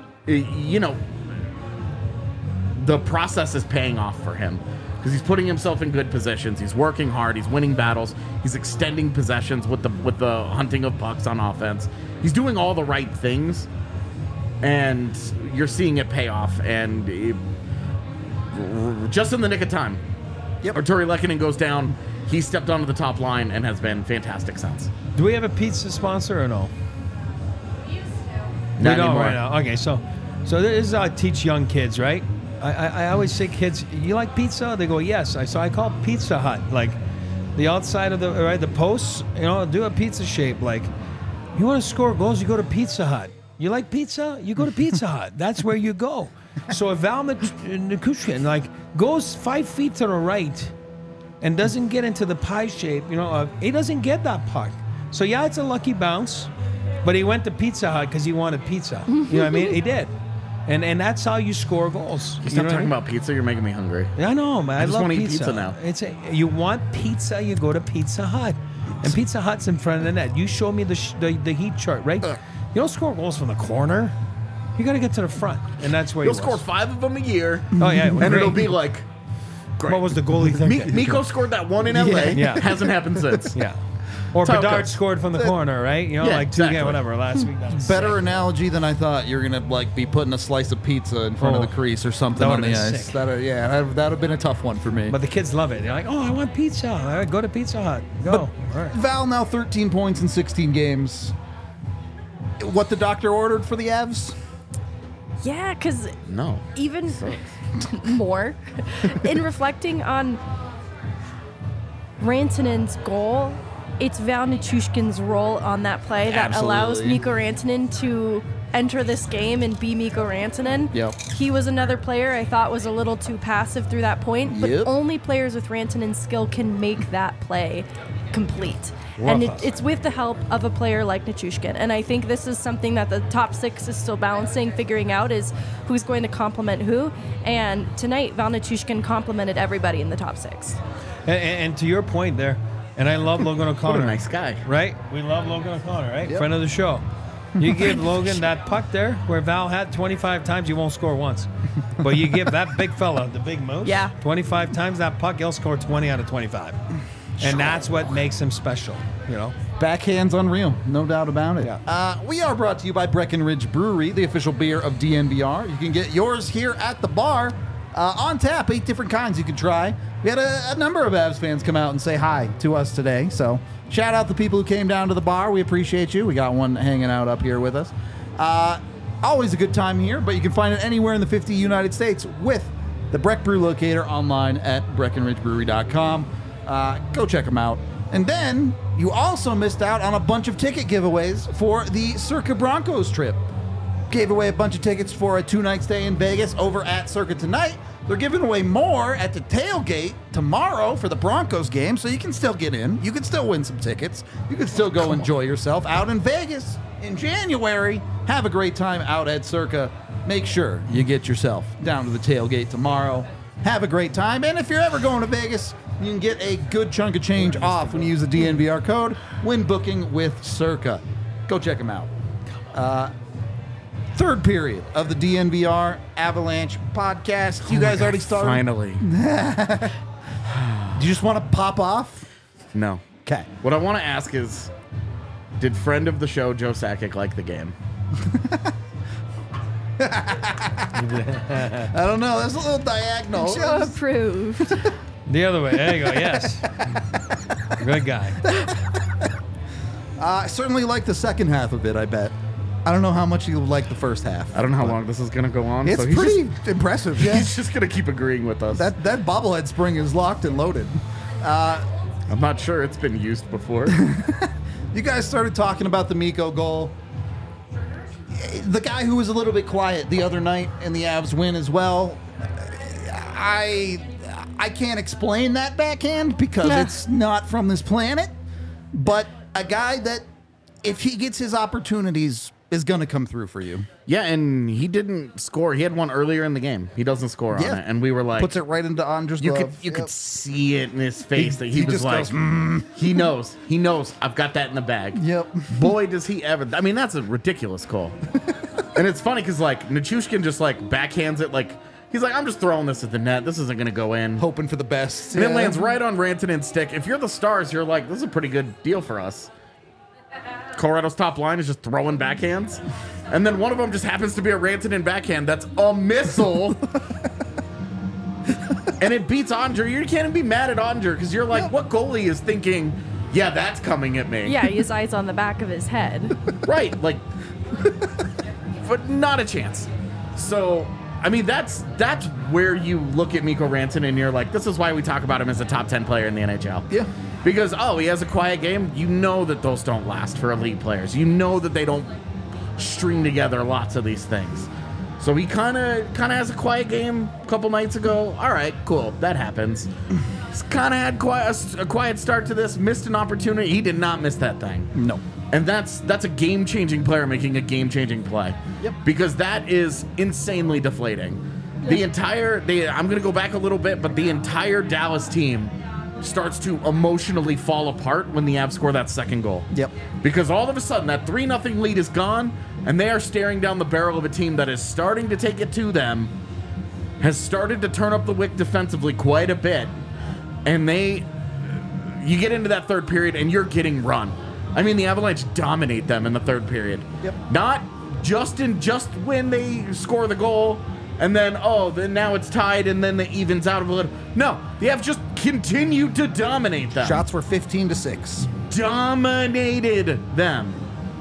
The process is paying off for him because he's putting himself in good positions. He's working hard. He's winning battles. He's extending possessions with the hunting of pucks on offense. He's doing all the right things. And you're seeing it pay off, and just in the nick of time. Yep. Arturi Lehkonen goes down. He stepped onto the top line and has been fantastic since. Do we have a pizza sponsor or no? Not we don't anymore. right now. Okay, so this is how I teach young kids, right? I always say, kids, you like pizza? They go, yes. So I call Pizza Hut, like the outside of the posts, do a pizza shape. Like, you want to score goals, you go to Pizza Hut. You like pizza? You go to Pizza Hut. That's where you go. So if Val Nichushkin goes 5 feet to the right and doesn't get into the pie shape, he doesn't get that puck. So yeah, it's a lucky bounce, but he went to Pizza Hut because he wanted pizza. You know what I mean? He did. And that's how you score goals. You stop talking about pizza, you're making me hungry. I know, man. I just love want to pizza. eat pizza now. You want pizza, you go to Pizza Hut. And Pizza Hut's in front of the net. You show me the heat chart, right? You don't score goals from the corner. You got to get to the front, and that's where you'll score 5 of them a year. Oh yeah, and it'll be like, great. What was the goalie thinking? Miko scored that one in LA. Yeah. Hasn't happened since. Yeah. Or Bedard scored from the corner, right? Exactly. 2 whatever last week. Better analogy than I thought. You're gonna be putting a slice of pizza in front of the crease or something on the ice. That'd have been a tough one for me. But the kids love it. They're like, oh, I want pizza. All right, go to Pizza Hut. Go. All right. Val now 13 points in 16 games. What the doctor ordered for the Avs? Yeah, because No. even more, in reflecting on Rantanen's goal, it's Val Nichushkin's role on that play that allows Mikko Rantanen to enter this game and be Mikko Rantanen. Yep. He was another player I thought was a little too passive through that point, but only players with Rantanen's skill can make that play complete. And it's with the help of a player like Nichushkin. And I think this is something that the top 6 is still balancing, figuring out is who's going to complement who. And tonight, Val Nichushkin complimented everybody in the top 6. And to your point there, and I love Logan O'Connor. What a nice guy. Right? We love Logan O'Connor, right? Yep. Friend of the show. You give Logan that puck there where Val had 25 times, you won't score once. But you give that big fella, the big moose, 25 times that puck, he'll score 20 out of 25. And that's what makes him special, Backhand's unreal, no doubt about it. Yeah. We are brought to you by Breckenridge Brewery, the official beer of DNVR. You can get yours here at the bar. On tap, 8 different kinds you can try. We had a number of Avs fans come out and say hi to us today. So shout out the people who came down to the bar. We appreciate you. We got one hanging out up here with us. Always a good time here, but you can find it anywhere in the 50 United States with the Breck Brew Locator online at BreckenridgeBrewery.com. Go check them out. And then you also missed out on a bunch of ticket giveaways for the Circa Broncos trip. Gave away a bunch of tickets for a 2-night stay in Vegas over at Circa tonight. They're giving away more at the tailgate tomorrow for the Broncos game, so you can still get in. You can still win some tickets. You can still go enjoy yourself out in Vegas in January. Have a great time out at Circa. Make sure you get yourself down to the tailgate tomorrow. Have a great time. And if you're ever going to Vegas, you can get a good chunk of change off when you use the DNVR code when booking with Circa. Go check them out. Third period of the DNVR Avalanche podcast. You guys already started? Finally. Do you just want to pop off? No. Okay. What I want to ask is, did friend of the show Joe Sakic like the game? I don't know. That's a little diagonal. Joe approved. The other way. There you go. Yes. Good guy. I certainly like the second half of it, I bet. I don't know how much you like the first half. I don't know how long this is going to go on. It's so he's pretty just, impressive, yeah. He's just going to keep agreeing with us. That bobblehead spring is locked and loaded. I'm not sure it's been used before. You guys started talking about the Mikko goal. The guy who was a little bit quiet the other night in the Avs win as well. I can't explain that backhand because it's not from this planet. But a guy that, if he gets his opportunities, is going to come through for you. Yeah, and he didn't score. He had one earlier in the game. He doesn't score on it. And we were like... Puts it right into Andre's glove. You could see it in his face that he was just like... goes, He knows. He knows. I've got that in the bag. Yep. Boy, does he ever... I mean, that's a ridiculous call. And it's funny because, like, Nichushkin just, like, backhands it like... He's like, I'm just throwing this at the net. This isn't going to go in. Hoping for the best. And it lands right on Rantanen's stick. If you're the Stars, you're like, this is a pretty good deal for us. Colorado's top line is just throwing backhands. And then one of them just happens to be a Rantanen backhand that's a missile. And it beats Andre. You can't even be mad at Andre because you're like, what goalie is thinking, yeah, that's coming at me? Yeah, his eyes on the back of his head. Right, like, but not a chance. So, I mean, that's where you look at Mikko Rantanen and you're like, this is why we talk about him as a top 10 player in the NHL. Yeah. Because, he has a quiet game. You know that those don't last for elite players. You know that they don't string together lots of these things. So he kind of has a quiet game a couple nights ago. All right, cool. That happens. He's kind of had a quiet start to this. Missed an opportunity. He did not miss that thing. No. And that's a game-changing player making a game-changing play. Yep. Because that is insanely deflating. I'm going to go back a little bit, but the entire Dallas team starts to emotionally fall apart when the Avs score that second goal. Yep. Because all of a sudden, that 3-0 lead is gone, and they are staring down the barrel of a team that is starting to take it to them, has started to turn up the wick defensively quite a bit, and you get into that third period, and you're getting run. I mean, the Avalanche dominate them in the third period. Yep. Not just when they score the goal, and then, then now it's tied, and then it evens out a little. No, the Avs just continued to dominate them. Shots were 15-6. Dominated them.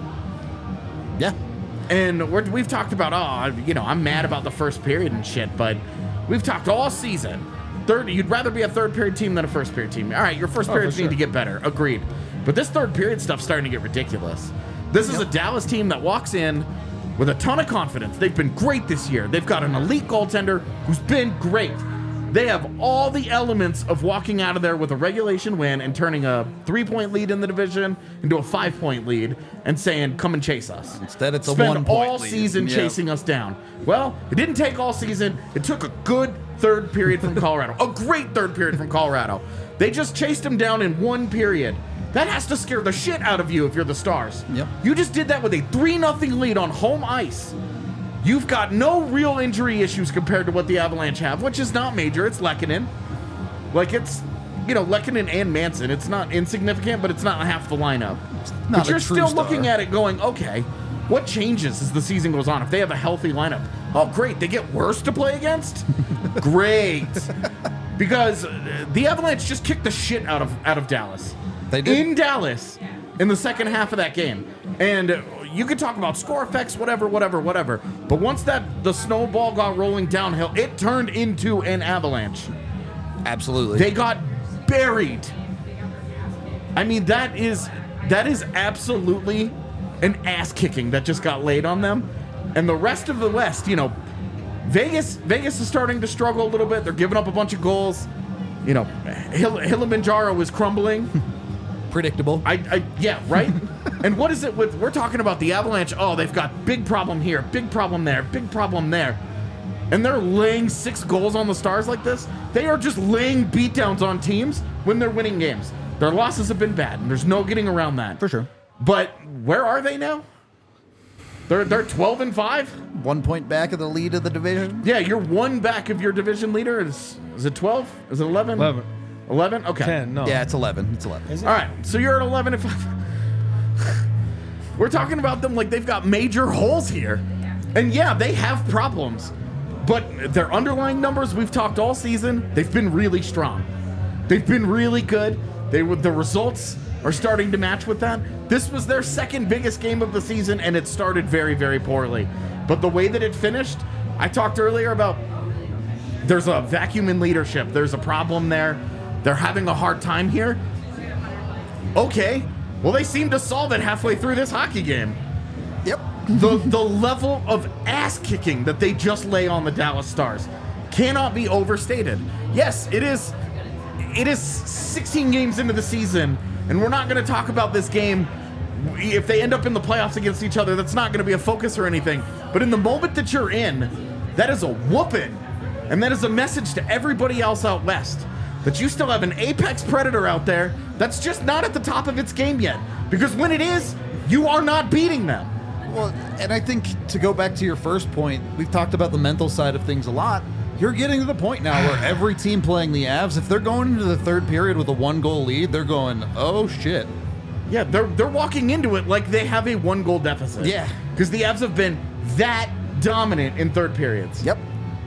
Yeah. And we've talked about, I'm mad about the first period and shit, but we've talked all season. You'd rather be a third period team than a first period team. All right, your first periods need to get better. Agreed. But this third period stuff's starting to get ridiculous. This is a Dallas team that walks in with a ton of confidence. They've been great this year. They've got an elite goaltender who's been great. They have all the elements of walking out of there with a regulation win and turning a 3-point lead in the division into a 5-point lead and saying, come and chase us. Instead, it's a Spend 1-point all lead. season chasing us down. Well, it didn't take all season. It took a good third period from Colorado. A great third period from Colorado. They just chased him down in one period. That has to scare the shit out of you if you're the Stars. Yep. You just did that with a 3-0 lead on home ice. You've got no real injury issues compared to what the Avalanche have, which is not major. It's Lehkonen. Like, it's, Lehkonen and Manson. It's not insignificant, but it's not half the lineup. But you're still looking at it going, okay, what changes as the season goes on? If they have a healthy lineup, oh, great, they get worse to play against? Great. Because the Avalanche just kicked the shit out of Dallas. They did. In Dallas in the second half of that game. And you could talk about score effects, whatever. But once the snowball got rolling downhill, it turned into an avalanche. Absolutely. They got buried. I mean, that is absolutely an ass kicking that just got laid on them. And the rest of the West, Vegas is starting to struggle a little bit. They're giving up a bunch of goals. You know, Kilimanjaro is crumbling. Predictable. Yeah, right? And what is it with, we're talking about the Avalanche, oh, they've got big problem here, big problem there, big problem there. And they're laying 6 goals on the Stars like this. They are just laying beatdowns on teams when they're winning games. Their losses have been bad, and there's no getting around that. For sure. But where are they now? They're 12-5? 1 point back of the lead of the division. Yeah, you're 1 back of your division leader. Is it 12? Is it 11? 11. 11? Okay. 10, no. Yeah, it's 11. It's 11. Is it? All right, so you're at 11-5. We're talking about them like they've got major holes here. And yeah, they have problems. But their underlying numbers, we've talked all season, they've been really strong. They've been really good. The results are starting to match with that. This was their second biggest game of the season, and it started very, very poorly. But the way that it finished, I talked earlier about there's a vacuum in leadership. There's a problem there. They're having a hard time here. Okay, well, they seem to solve it halfway through this hockey game. Yep. The level of ass kicking that they just lay on the Dallas Stars cannot be overstated. Yes, it is 16 games into the season, and we're not going to talk about this game. If they end up in the playoffs against each other, that's not going to be a focus or anything. But in the moment that you're in, that is a whooping. And that is a message to everybody else out west that you still have an apex predator out there that's just not at the top of its game yet. Because when it is, you are not beating them. Well, and I think to go back to your first point, we've talked about the mental side of things a lot. You're getting to the point now where every team playing the Avs, if they're going into the third period with a 1-goal lead, they're going, oh shit. Yeah, they're walking into it like they have a 1-goal deficit. Yeah. Because the Avs have been that dominant in third periods. Yep.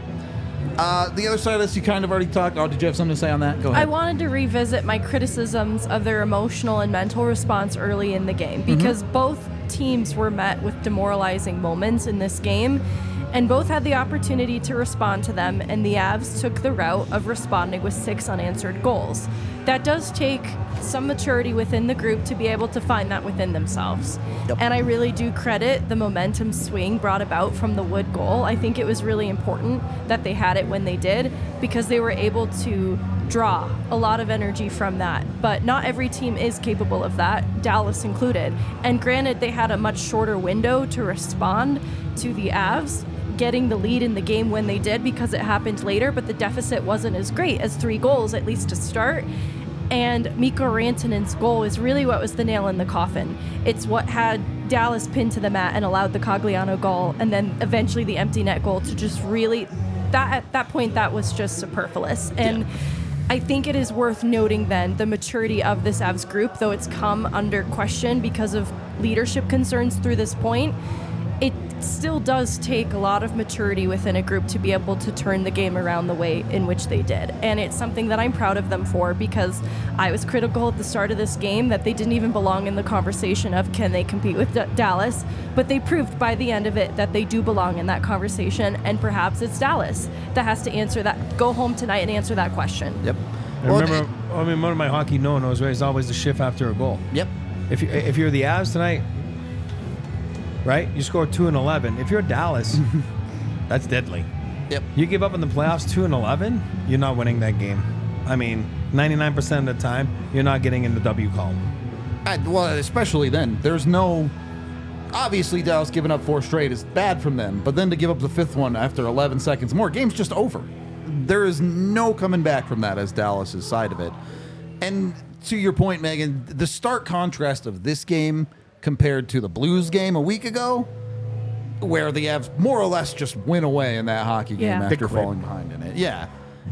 The other side of this, you kind of already talked. Oh, did you have something to say on that? Go ahead. I wanted to revisit my criticisms of their emotional and mental response early in the game because both teams were met with demoralizing moments in this game, and both had the opportunity to respond to them, and the Avs took the route of responding with 6 unanswered goals. That does take some maturity within the group to be able to find that within themselves. Yep. And I really do credit the momentum swing brought about from the Wood goal. I think it was really important that they had it when they did because they were able to draw a lot of energy from that. But not every team is capable of that, Dallas included. And granted, they had a much shorter window to respond to the Avs getting the lead in the game when they did because it happened later, but the deficit wasn't as great as 3 goals, at least to start. And Mikko Rantanen's goal is really what was the nail in the coffin. It's what had Dallas pinned to the mat and allowed the Cogliano goal, and then eventually the empty net goal to just really, at that point, that was just superfluous. And I think it is worth noting then the maturity of this Avs group, though it's come under question because of leadership concerns through this point. It still does take a lot of maturity within a group to be able to turn the game around the way in which they did. And it's something that I'm proud of them for because I was critical at the start of this game that they didn't even belong in the conversation of can they compete with Dallas, but they proved by the end of it that they do belong in that conversation, and perhaps it's Dallas that has to answer that, go home tonight and answer that question. Yep. I remember, one of my hockey no-nos is always the shift after a goal. Yep. If you're the Avs tonight, right? You score 2 and 11. If you're Dallas, that's deadly. Yep. You give up in the playoffs 2 and 11, you're not winning that game. I mean, 99% of the time, you're not getting in the W column. Well, especially then. There's no... Obviously, Dallas giving up 4 straight is bad from them, but then to give up the 5th one after 11 seconds more, game's just over. There is no coming back from that as Dallas's side of it. And to your point, Megan, the stark contrast of this game compared to the Blues game a week ago, where the Avs more or less just went away in that hockey game after falling behind in it. Yeah.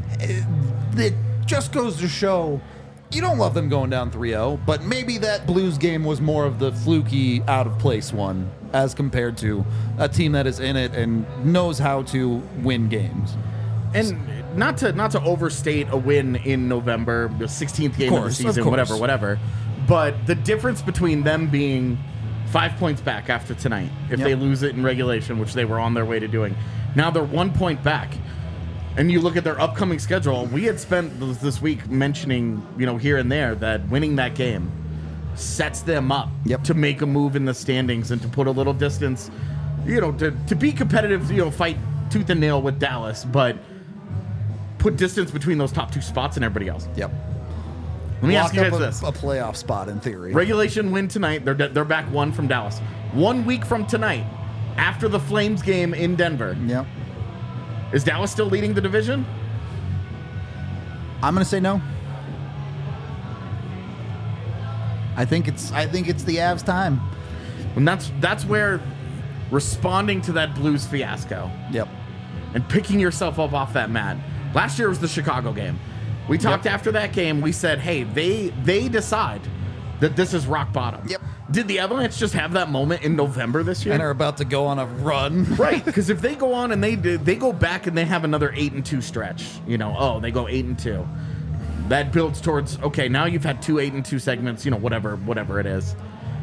It just goes to show you don't love them going down 3-0, but maybe that Blues game was more of the fluky, out-of-place one as compared to a team that is in it and knows how to win games. And not to overstate a win in November, the 16th game of the season, whatever. But the difference between them being 5 points back after tonight, if they lose it in regulation, which they were on their way to doing, now they're 1 point back. And you look at their upcoming schedule, we had spent this week mentioning, here and there that winning that game sets them up to make a move in the standings and to put a little distance, to be competitive, fight tooth and nail with Dallas, but put distance between those top 2 spots and everybody else. Yep. Let me ask you Lock guys up this. a playoff spot in theory. Regulation win tonight. They're back 1 from Dallas. 1 week from tonight, after the Flames game in Denver, Yep. is Dallas still leading the division? I'm going to say no. I think it's the Avs' time. And that's where responding to that Blues fiasco Yep. and picking yourself up off that mat. Last year was the Chicago game. We talked after that game. We said, hey, they decide that this is rock bottom. Yep. Did the Avalanche just have that moment in November this year? And are about to go on a run. Right, because if they go on and they go back and they have another 8-2 stretch, they go 8-2. That builds towards, okay, now you've had 2 8-2 segments, whatever it is.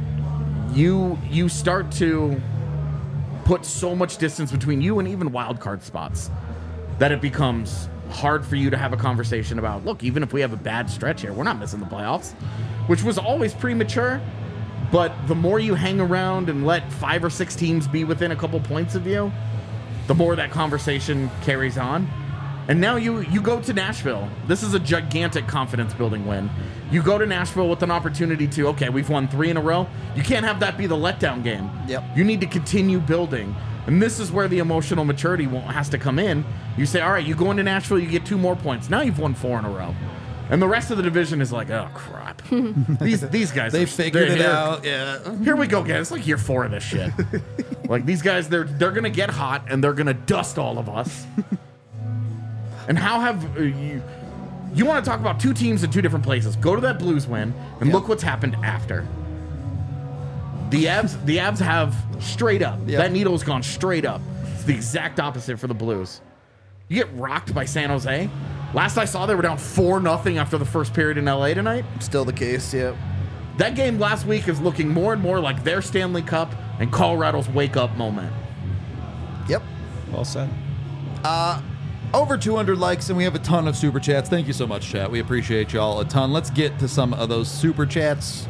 You start to put so much distance between you and even wild card spots that it becomes hard for you to have a conversation about, look, even if we have a bad stretch here, we're not missing the playoffs, which was always premature. But the more you hang around and let 5 or 6 teams be within a couple points of you, the more that conversation carries on. And now you go to Nashville. This is a gigantic confidence-building win. You go to Nashville with an opportunity to, okay, we've won 3 in a row. You can't have that be the letdown game. Yep. You need to continue building. And this is where the emotional maturity has to come in. You say, all right, you go into Nashville, you get 2 more points. Now you've won 4 in a row. And the rest of the division is like, oh, crap. These guys, They figured it out. Yeah. Here we go, guys. It's like year 4 of this shit. Like, these guys, they're going to get hot, and they're going to dust all of us. And how have you want to talk about 2 teams in 2 different places. Go to that Blues win, and look what's happened after. The Avs have straight up. Yep. That needle has gone straight up. It's the exact opposite for the Blues. You get rocked by San Jose. Last I saw, they were down 4-0 after the first period in LA tonight. Still the case, yeah. That game last week is looking more and more like their Stanley Cup and Colorado's wake-up moment. Yep. Well said. Over 200 likes, and we have a ton of super chats. Thank you so much, chat. We appreciate y'all a ton. Let's get to some of those super chats.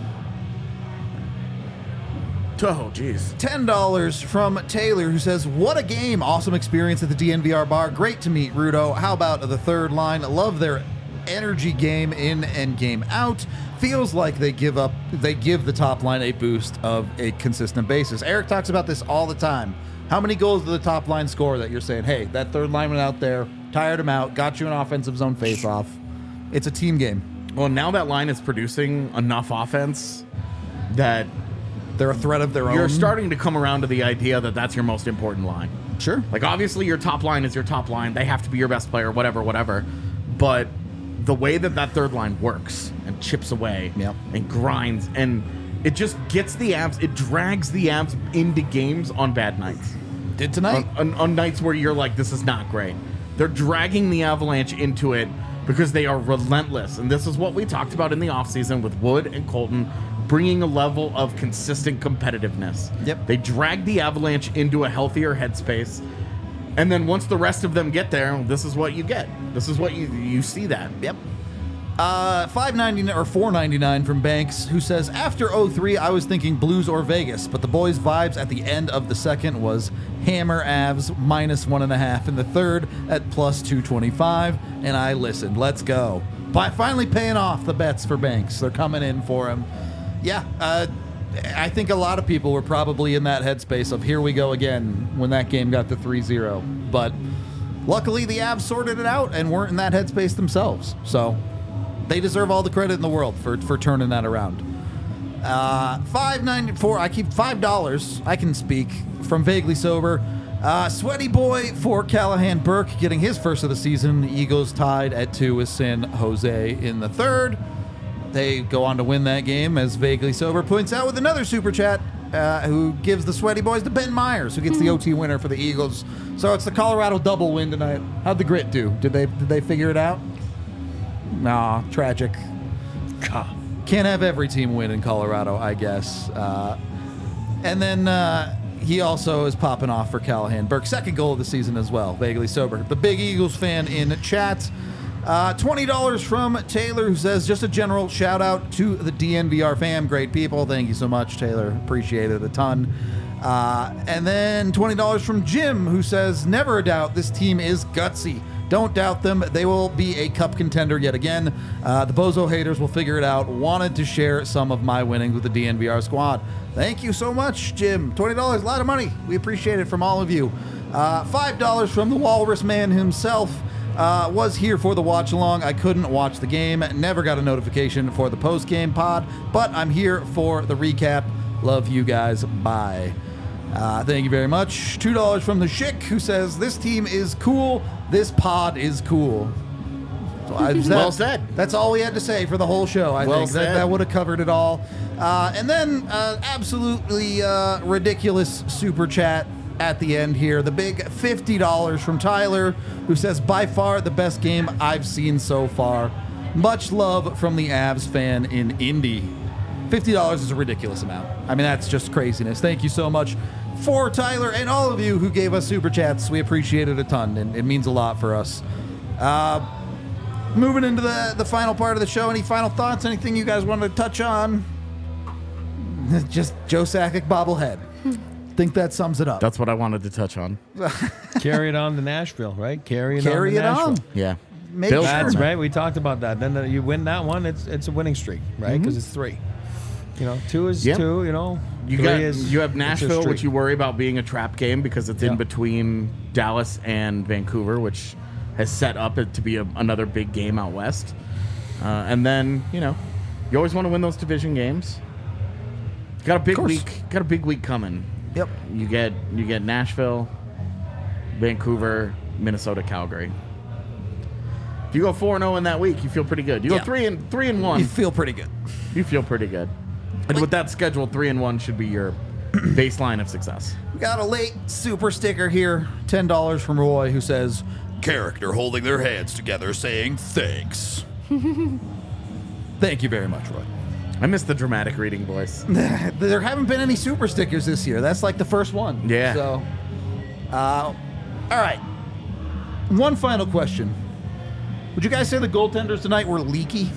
Oh, jeez. $10 from Taylor, who says, what a game. Awesome experience at the DNVR bar. Great to meet Rudo. How about the third line? Love their energy game in and game out. Feels like they give the top line a boost of a consistent basis. Eric talks about this all the time. How many goals do the top line score that you're saying, hey, that third lineman out there, tired him out, got you an offensive zone faceoff? It's a team game. Well, now that line is producing enough offense that They're a threat of their own. you're starting to come around to the idea that that's your most important line. Sure. Like, obviously, your top line is your top line. They have to be your best player, whatever. But the way that third line works and chips away and grinds, and it just gets the Avs, it drags the Avs into games on bad nights. Did tonight. On nights where you're like, this is not great. They're dragging the Avalanche into it because they are relentless. And this is what we talked about in the offseason with Wood and Colton, bringing a level of consistent competitiveness. Yep. They drag the Avalanche into a healthier headspace. And then once the rest of them get there, this is what you get. This is what you see that. Yep. $5.99 or $4.99 from Banks, who says, after 03, I was thinking Blues or Vegas, but the boys' vibes at the end of the second was hammer Avs -1.5 in the third at +225, and I listened. Let's go. By finally paying off the bets for Banks. They're coming in for him. Yeah, I think a lot of people were probably in that headspace of here we go again when that game got to 3-0. But luckily the Avs sorted it out and weren't in that headspace themselves. So they deserve all the credit in the world for turning that around. $5.94. I keep $5. I can speak from Vaguely Sober. Sweaty boy for Callahan Burke getting his first of the season. The Eagles tied at 2 with San Jose in the third. They go on to win that game, as Vaguely Sober points out with another super chat, who gives the Sweaty Boys to Ben Myers, who gets the OT winner for the Eagles. So it's the Colorado double win tonight. How'd the Grit do? Did they figure it out? Nah, tragic. Can't have every team win in Colorado, I guess. And then he also is popping off for Callahan Burke. Second goal of the season as well, Vaguely Sober. The big Eagles fan in chat. $20 from Taylor, who says, just a general shout out to the DNVR fam. Great people. Thank you so much, Taylor. Appreciate it a ton. And then $20 from Jim, who says, never a doubt this team is gutsy. Don't doubt them. They will be a cup contender yet again. The Bozo haters will figure it out. Wanted to share some of my winnings with the DNVR squad. Thank you so much, Jim. $20, a lot of money. We appreciate it from all of you. $5 from the Walrus Man himself. Was here for the watch along. I couldn't watch the game. Never got a notification for the post game pod, but I'm here for the recap. Love you guys. Bye. Thank you very much. $2 from the Schick, who says, this team is cool. This pod is cool. So Well said. That's all we had to say for the whole show. I Well think said. that would have covered it all. And then absolutely ridiculous super chat at the end here. The big $50 from Tyler, who says, by far the best game I've seen so far. Much love from the Avs fan in Indy. $50 is a ridiculous amount. I mean, that's just craziness. Thank you so much for Tyler and all of you who gave us super chats. We appreciate it a ton, and it means a lot for us. Moving into the final part of the show, any final thoughts? Anything you guys wanted to touch on? Just Joe Sakic bobblehead. Think that sums it up. That's what I wanted to touch on. Carry it on to Nashville, right? Carry it Carry on to it Nashville. on. Yeah. Make Bill- sure. That's right. We talked about that. Then you win that one, it's a winning streak, right? Because it's 3. 2 is Yeah. 2. You 3 got is you have it's a Nashville, streak. which you worry about being a trap game because it's Yeah. in between Dallas and Vancouver, which has set up it to be another big game out west. And then you always want to win those division games. Got a big course. week. Got a big week coming. Yep. You get Nashville, Vancouver, Minnesota, Calgary. If you go 4-0 in that week, you feel pretty good. You Yeah. go 3-1, You feel pretty good. you feel pretty good. And with that schedule, 3-1 should be your baseline of success. We got a late super sticker here. $10 from Roy, who says, character holding their hands together saying thanks. Thank you very much, Roy. I miss the dramatic reading voice. There haven't been any super stickers this year. That's like the first one. Yeah. So, all right. One final question. Would you guys say the goaltenders tonight were leaky?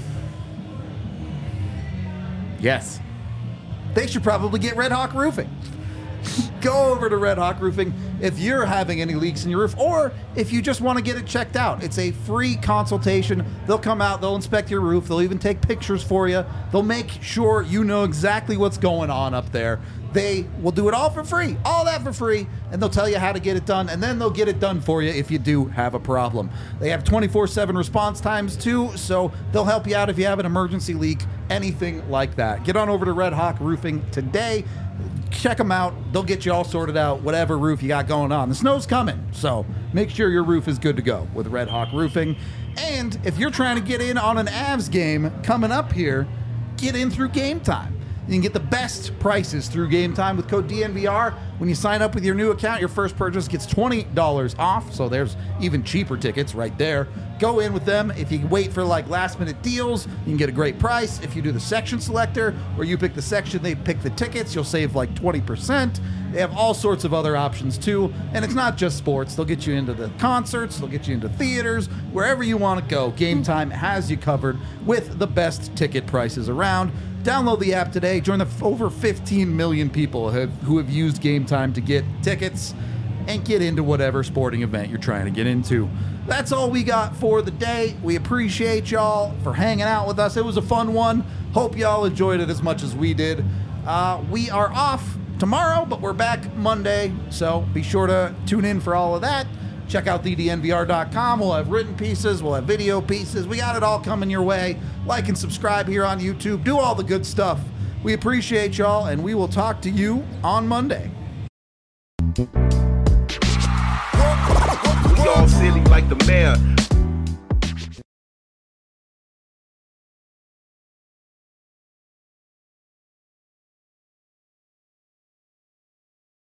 Yes. They should probably get Red Hawk Roofing. Go over to Red Hawk Roofing if you're having any leaks in your roof, or if you just want to get it checked out. It's a free consultation. They'll come out, they'll inspect your roof, they'll even take pictures for you. They'll make sure you know exactly what's going on up there. They will do it all for free, all that for free, and they'll tell you how to get it done, and then they'll get it done for you if you do have a problem. They have 24/7 response times too, so they'll help you out if you have an emergency leak, anything like that. Get on over to Red Hawk Roofing today. Check them out. They'll get you all sorted out, whatever roof you got going on. The snow's coming, so make sure your roof is good to go with Red Hawk Roofing. And if you're trying to get in on an Avs game coming up here, get in through Game Time. You can get the best prices through Game Time with code DNVR. When you sign up with your new account, your first purchase gets $20 off, so there's even cheaper tickets right there. Go in with them. If you wait for like last minute deals, you can get a great price. If you do the section selector, where you pick the section, they pick the tickets, you'll save like 20%. They have all sorts of other options too, and it's not just sports. They'll get you into the concerts, they'll get you into theaters, wherever you want to go. Game Time has you covered with the best ticket prices around. Download the app today. Join the over 15 million people who have used Game Time to get tickets and get into whatever sporting event you're trying to get into. That's all we got for the day. We appreciate y'all for hanging out with us. It was a fun one. Hope y'all enjoyed it as much as we did. We are off tomorrow, but we're back Monday, so be sure to tune in for all of that. Check out ddnvr.com. We'll have written pieces. We'll have video pieces. We got it all coming your way. Like and subscribe here on YouTube. Do all the good stuff. We appreciate y'all, and we will talk to you on Monday. We all silly like the mayor.